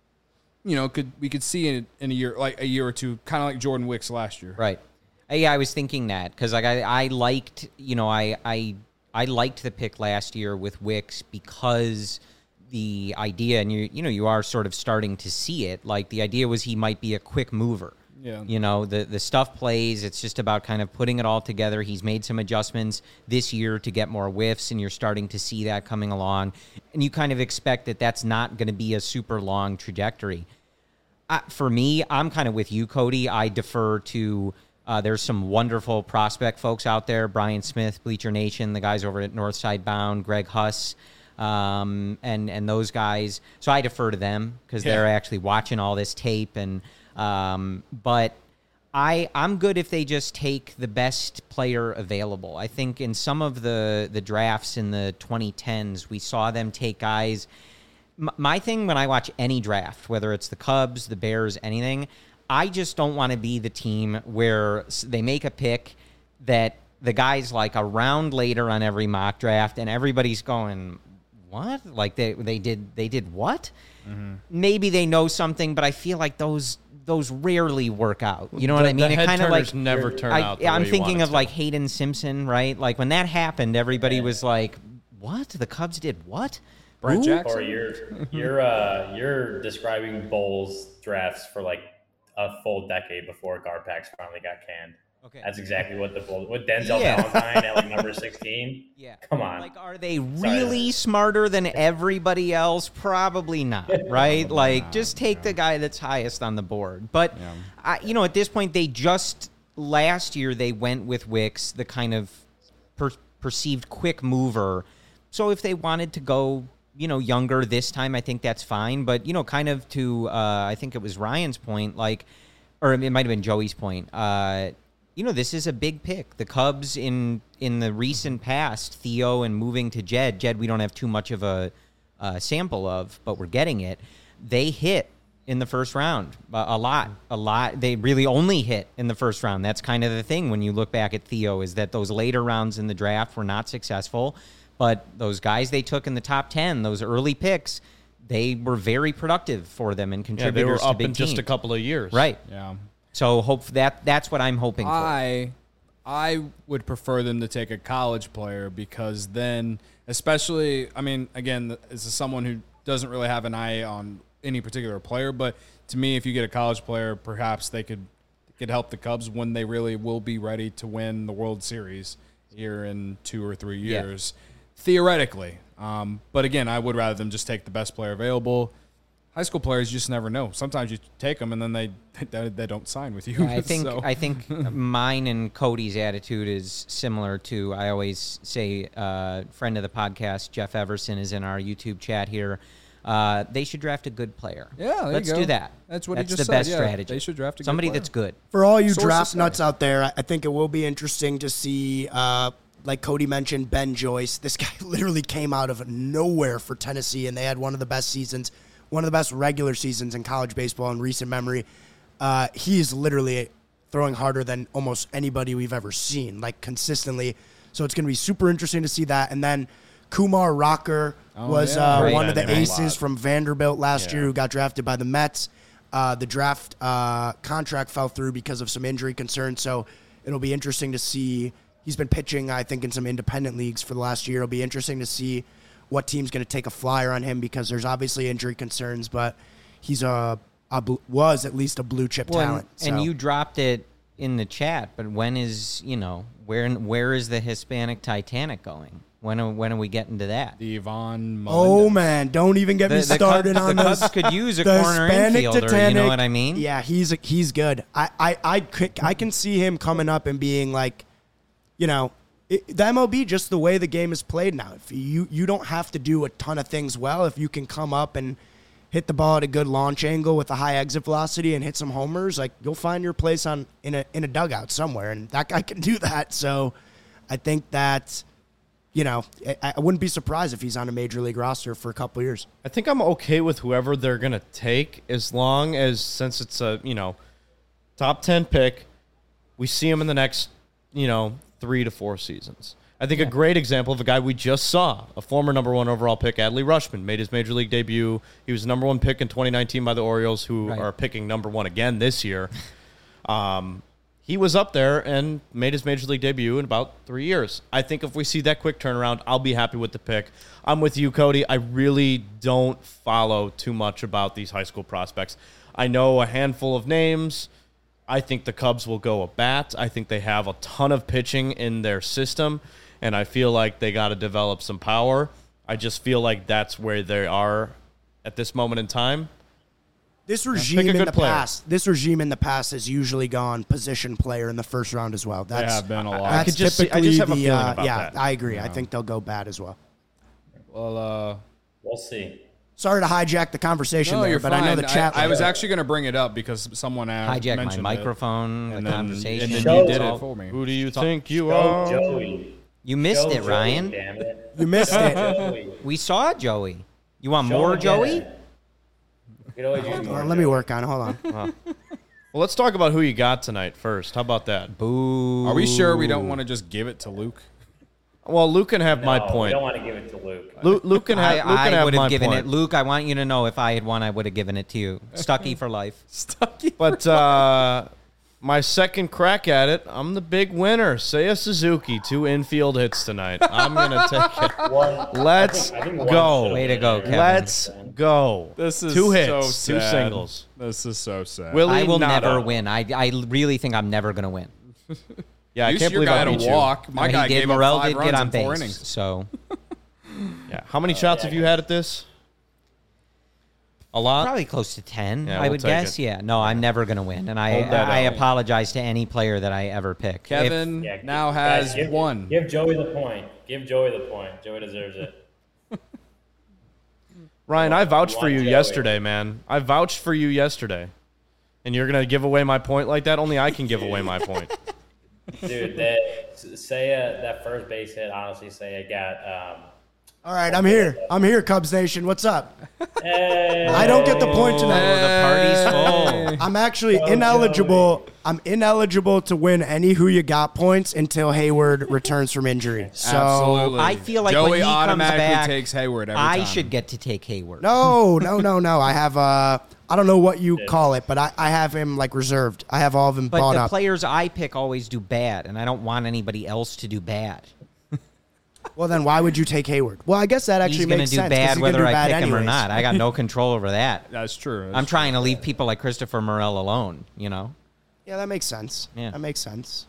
we could see in a year, like a year or two, kind of like Jordan Wicks last year? Right. Yeah, I was thinking that because like I liked, I liked the pick last year with Wicks because the idea, and you are sort of starting to see it. Like, the idea was he might be a quick mover. Yeah. The stuff plays. It's just about kind of putting it all together. He's made some adjustments this year to get more whiffs, and you're starting to see that coming along. And you kind of expect that that's not going to be a super long trajectory. For me, I'm kind of with you, Cody. I defer to. There's some wonderful prospect folks out there. Brian Smith, Bleacher Nation, the guys over at Northside Bound, Greg Huss, and those guys. So I defer to them because they're actually watching all this tape. And but I'm good if they just take the best player available. I think in some of the drafts in the 2010s, we saw them take guys. My thing when I watch any draft, whether it's the Cubs, the Bears, anything, I just don't want to be the team where they make a pick that the guy's like a round later on every mock draft and everybody's going, what? Like they did what? Mm-hmm. Maybe they know something, but I feel like those rarely work out. You know what I mean? The it kind of like never turn out. I'm thinking of like Hayden Simpson, right? Like when that happened, everybody was like, what? The Cubs did what? Brett Jackson. Or you're describing Bowles drafts for like a full decade before Garpax finally got canned. Okay. That's exactly what with Denzel Valentine at like number 16. Yeah. Come on. Like, are they really smarter than everybody else? Probably not, right? Like, just take the guy that's highest on the board. But, at this point, last year, they went with Wicks, the kind of perceived quick mover. So if they wanted to go, younger this time, I think that's fine. But, kind of to, I think it was Ryan's point, or it might have been Joey's point, this is a big pick. The Cubs in the recent past, Theo and moving to Jed, we don't have too much of a sample of, but we're getting it. They hit in the first round a lot. They really only hit in the first round. That's kind of the thing when you look back at Theo, is that those later rounds in the draft were not successful, but those guys they took in the top 10, those early picks, they were very productive for them and contributors they were to up big in just teams. a couple of years. Right. Yeah. So that's what I'm hoping for. I would prefer them to take a college player, because then, especially, I mean, again, this is someone who doesn't really have an eye on any particular player, but to me, if you get a college player, perhaps they could help the Cubs when they really will be ready to win the World Series here in 2 or 3 years, theoretically. But again, I would rather them just take the best player available. High school players, you just never know. Sometimes you take them and then they don't sign with you. Yeah, I think mine and Cody's attitude is similar to, I always say, friend of the podcast, Jeff Everson, is in our YouTube chat here. They should draft a good player. Yeah, let's do that. That's what that's he just the said. best strategy. They should draft somebody good player. That's good. For all you Sources draft nuts out there, I think it will be interesting to see, like Cody mentioned, Ben Joyce. This guy literally came out of nowhere for Tennessee, and they had one of the best seasons, one of the best regular seasons in college baseball in recent memory. He is literally throwing harder than almost anybody we've ever seen, like consistently. So it's going to be super interesting to see that. And then Kumar Rocker was one of the aces from Vanderbilt last year who got drafted by the Mets. The draft contract fell through because of some injury concerns, so it'll be interesting to see. He's been pitching, I think, in some independent leagues for the last year. It'll be interesting to see what team's going to take a flyer on him, because there's obviously injury concerns, but he's was at least a blue chip talent. And you dropped it in the chat, but when is, where is the Hispanic Titanic going? When are we getting to that? The Yvonne Melendez. Oh man, don't even get me started on this. The Cubs could use a The corner Hispanic infielder, Titanic, you know what I mean? Yeah, he's good. I can see him coming up and being like, the MLB, just the way the game is played now. If you don't have to do a ton of things well. If you can come up and hit the ball at a good launch angle with a high exit velocity and hit some homers, like, you'll find your place in a dugout somewhere, and that guy can do that. So I think that, I wouldn't be surprised if he's on a major league roster for a couple years. I think I'm okay with whoever they're going to take, as long as, since it's a, top 10 pick, we see him in the next, 3 to 4 seasons. I think a great example of a guy we just saw, a former number 1 overall pick, Adley Rutschman, made his major league debut. He was number 1 pick in 2019 by the Orioles, who are picking number 1 again this year. He was up there and made his major league debut in about 3 years. I think if we see that quick turnaround, I'll be happy with the pick. I'm with you, Cody. I really don't follow too much about these high school prospects. I know a handful of names. I think the Cubs will go a bat. I think they have a ton of pitching in their system, and I feel like they got to develop some power. I just feel like that's where they are at this moment in time. This regime in the past has usually gone position player in the first round as well. They have been a lot. I just have a feeling about that. I agree. I think they'll go bat as well. Well, we'll see. Sorry to hijack the conversation there, but fine. I know the chat. I was actually going to bring it up because someone hijacked my microphone, and the conversation. And then you did it for me. Who do you think you are? Joey. You missed it, Ryan. Damn it. You missed it. We saw Joey. You want more Joey? Let me work on it. Hold on. Well, let's talk about who you got tonight first. How about that? Boo. Are we sure we don't want to just give it to Luke? Well, Luke can have my point. We don't want to give it to Luke. Luke can have I would have given point. it. Luke, I want you to know if I had won, I would have given it to you. Stuckey for life. Stuckey. But my second crack at it. I'm the big winner. Seiya Suzuki, 2 infield hits tonight. I'm going to take it. Let's go. Way to go, Kevin. Let's go. This is 2 hits, so 2 sad. singles. This is so sad. Willie I will Nada. never win. I really think I'm never going to win. Yeah, I At can't least your believe guy I had beat a you. walk. My guy he did. gave up Morel 5 did runs get on in 4 base. innings. So Yeah. How many shots have you had at this? A lot? probably close to 10, Yeah, I we'll would take guess. it. Yeah. No, I'm never going to win. And Hold that I out. apologize to any player that I ever pick. Kevin Yeah, now guys, has 1. Give Joey the point. Give Joey the point. Joey deserves it. Ryan, I vouched for you Joey. yesterday, man. I vouched for you yesterday. And you're going to give away my point like that? Only I can give away my point. Dude, that first base hit, honestly, Seiya got. All right, I'm here. I'm here, Cubs Nation. What's up? Hey, I don't get the point Oh, tonight. the party's full. I'm actually ineligible. I'm ineligible to win any Who You Got points until Hayward returns from injury. So Absolutely. I feel like Joey when he comes automatically back, takes Hayward every I time. should get to take Hayward. no. I have I don't know what you call it, but I have him like reserved. I have all of him But bought the up. players I pick always do bad, and I don't want anybody else to do bad. Well, then why would you take Hayward? Well, I guess that actually He's going to makes do sense. 'cause bad he's gonna whether do I bad pick him or anyways. not. I got no control over that. That's true. I'm trying to leave people like Christopher Morel alone, you know? Yeah, that makes sense. Yeah. That makes sense.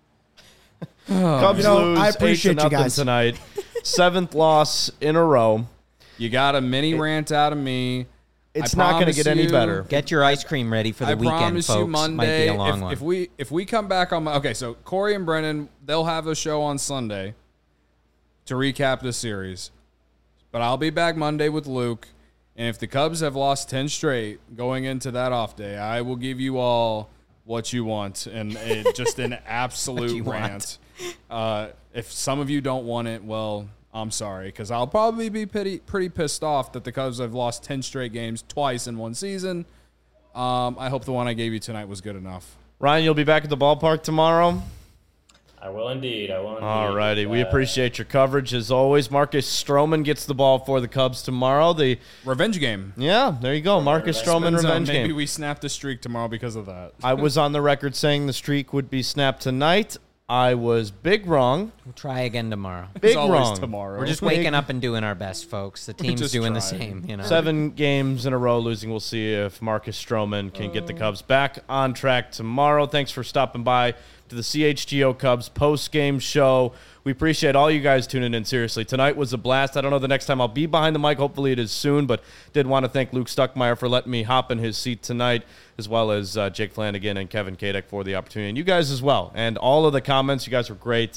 Cubs You know, lose I appreciate 8-0 you guys. tonight. 7th loss in a row. You got a mini rant out of me. It's I not going to promise get any you- better. Get your ice cream ready for the I weekend, promise folks. you Monday, Might be a long one. if we come back on okay, so Corey and Brennan, they'll have a show on Sunday to recap the series. But I'll be back Monday with Luke, and if the Cubs have lost 10 straight going into that off day, I will give you all what you want and just an absolute you rant. If some of you don't want it, well, I'm sorry, because I'll probably be pretty pissed off that the Cubs have lost 10 straight games twice in one season. I hope the one I gave you tonight was good enough. Ryan, you'll be back at the ballpark tomorrow? I will indeed. All righty. We appreciate your coverage as always. Marcus Stroman gets the ball for the Cubs tomorrow. Revenge game. Yeah, there you go. Marcus Stroman revenge Maybe game. we snap the streak tomorrow because of that. I was on the record saying the streak would be snapped tonight. I was big wrong. We'll try again tomorrow. Big It's always wrong. tomorrow. We're just waking up and doing our best, folks. The team's just doing the trying. same, you know? 7 games in a row losing. We'll see if Marcus Stroman can get the Cubs back on track tomorrow. Thanks for stopping by to the CHGO Cubs post-game show. We appreciate all you guys tuning in. Seriously, tonight was a blast. I don't know the next time I'll be behind the mic. Hopefully it is soon, but did want to thank Luke Stuckmeyer for letting me hop in his seat tonight, as well as Jake Flanagan and Kevin Kadek for the opportunity, and you guys as well. And all of the comments, you guys were great.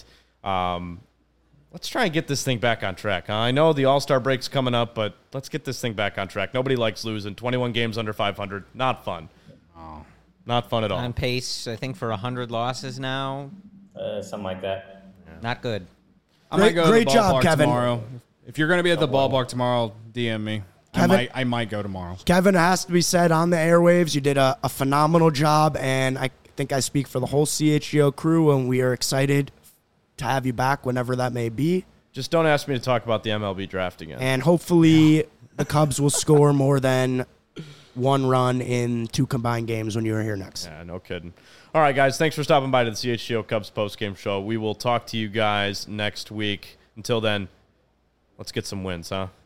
Let's try and get this thing back on track. I know the All-Star break's coming up, but let's get this thing back on track. Nobody likes losing. 21 games under 500. Not fun. Not fun at all. On pace, I think, for 100 losses now. Something like that. Not good. I might go Great to the job, ballpark Kevin. tomorrow. If you're going to be at the ballpark tomorrow, DM me. Kevin? I might go tomorrow. Kevin, it has to be said on the airwaves, you did a phenomenal job, and I think I speak for the whole CHGO crew, and we are excited to have you back whenever that may be. Just don't ask me to talk about the MLB draft again. And hopefully the Cubs will score more than 1 run in 2 combined games when you're here next. Yeah, no kidding. All right, guys, thanks for stopping by to the CHGO Cubs postgame show. We will talk to you guys next week. Until then, let's get some wins, huh?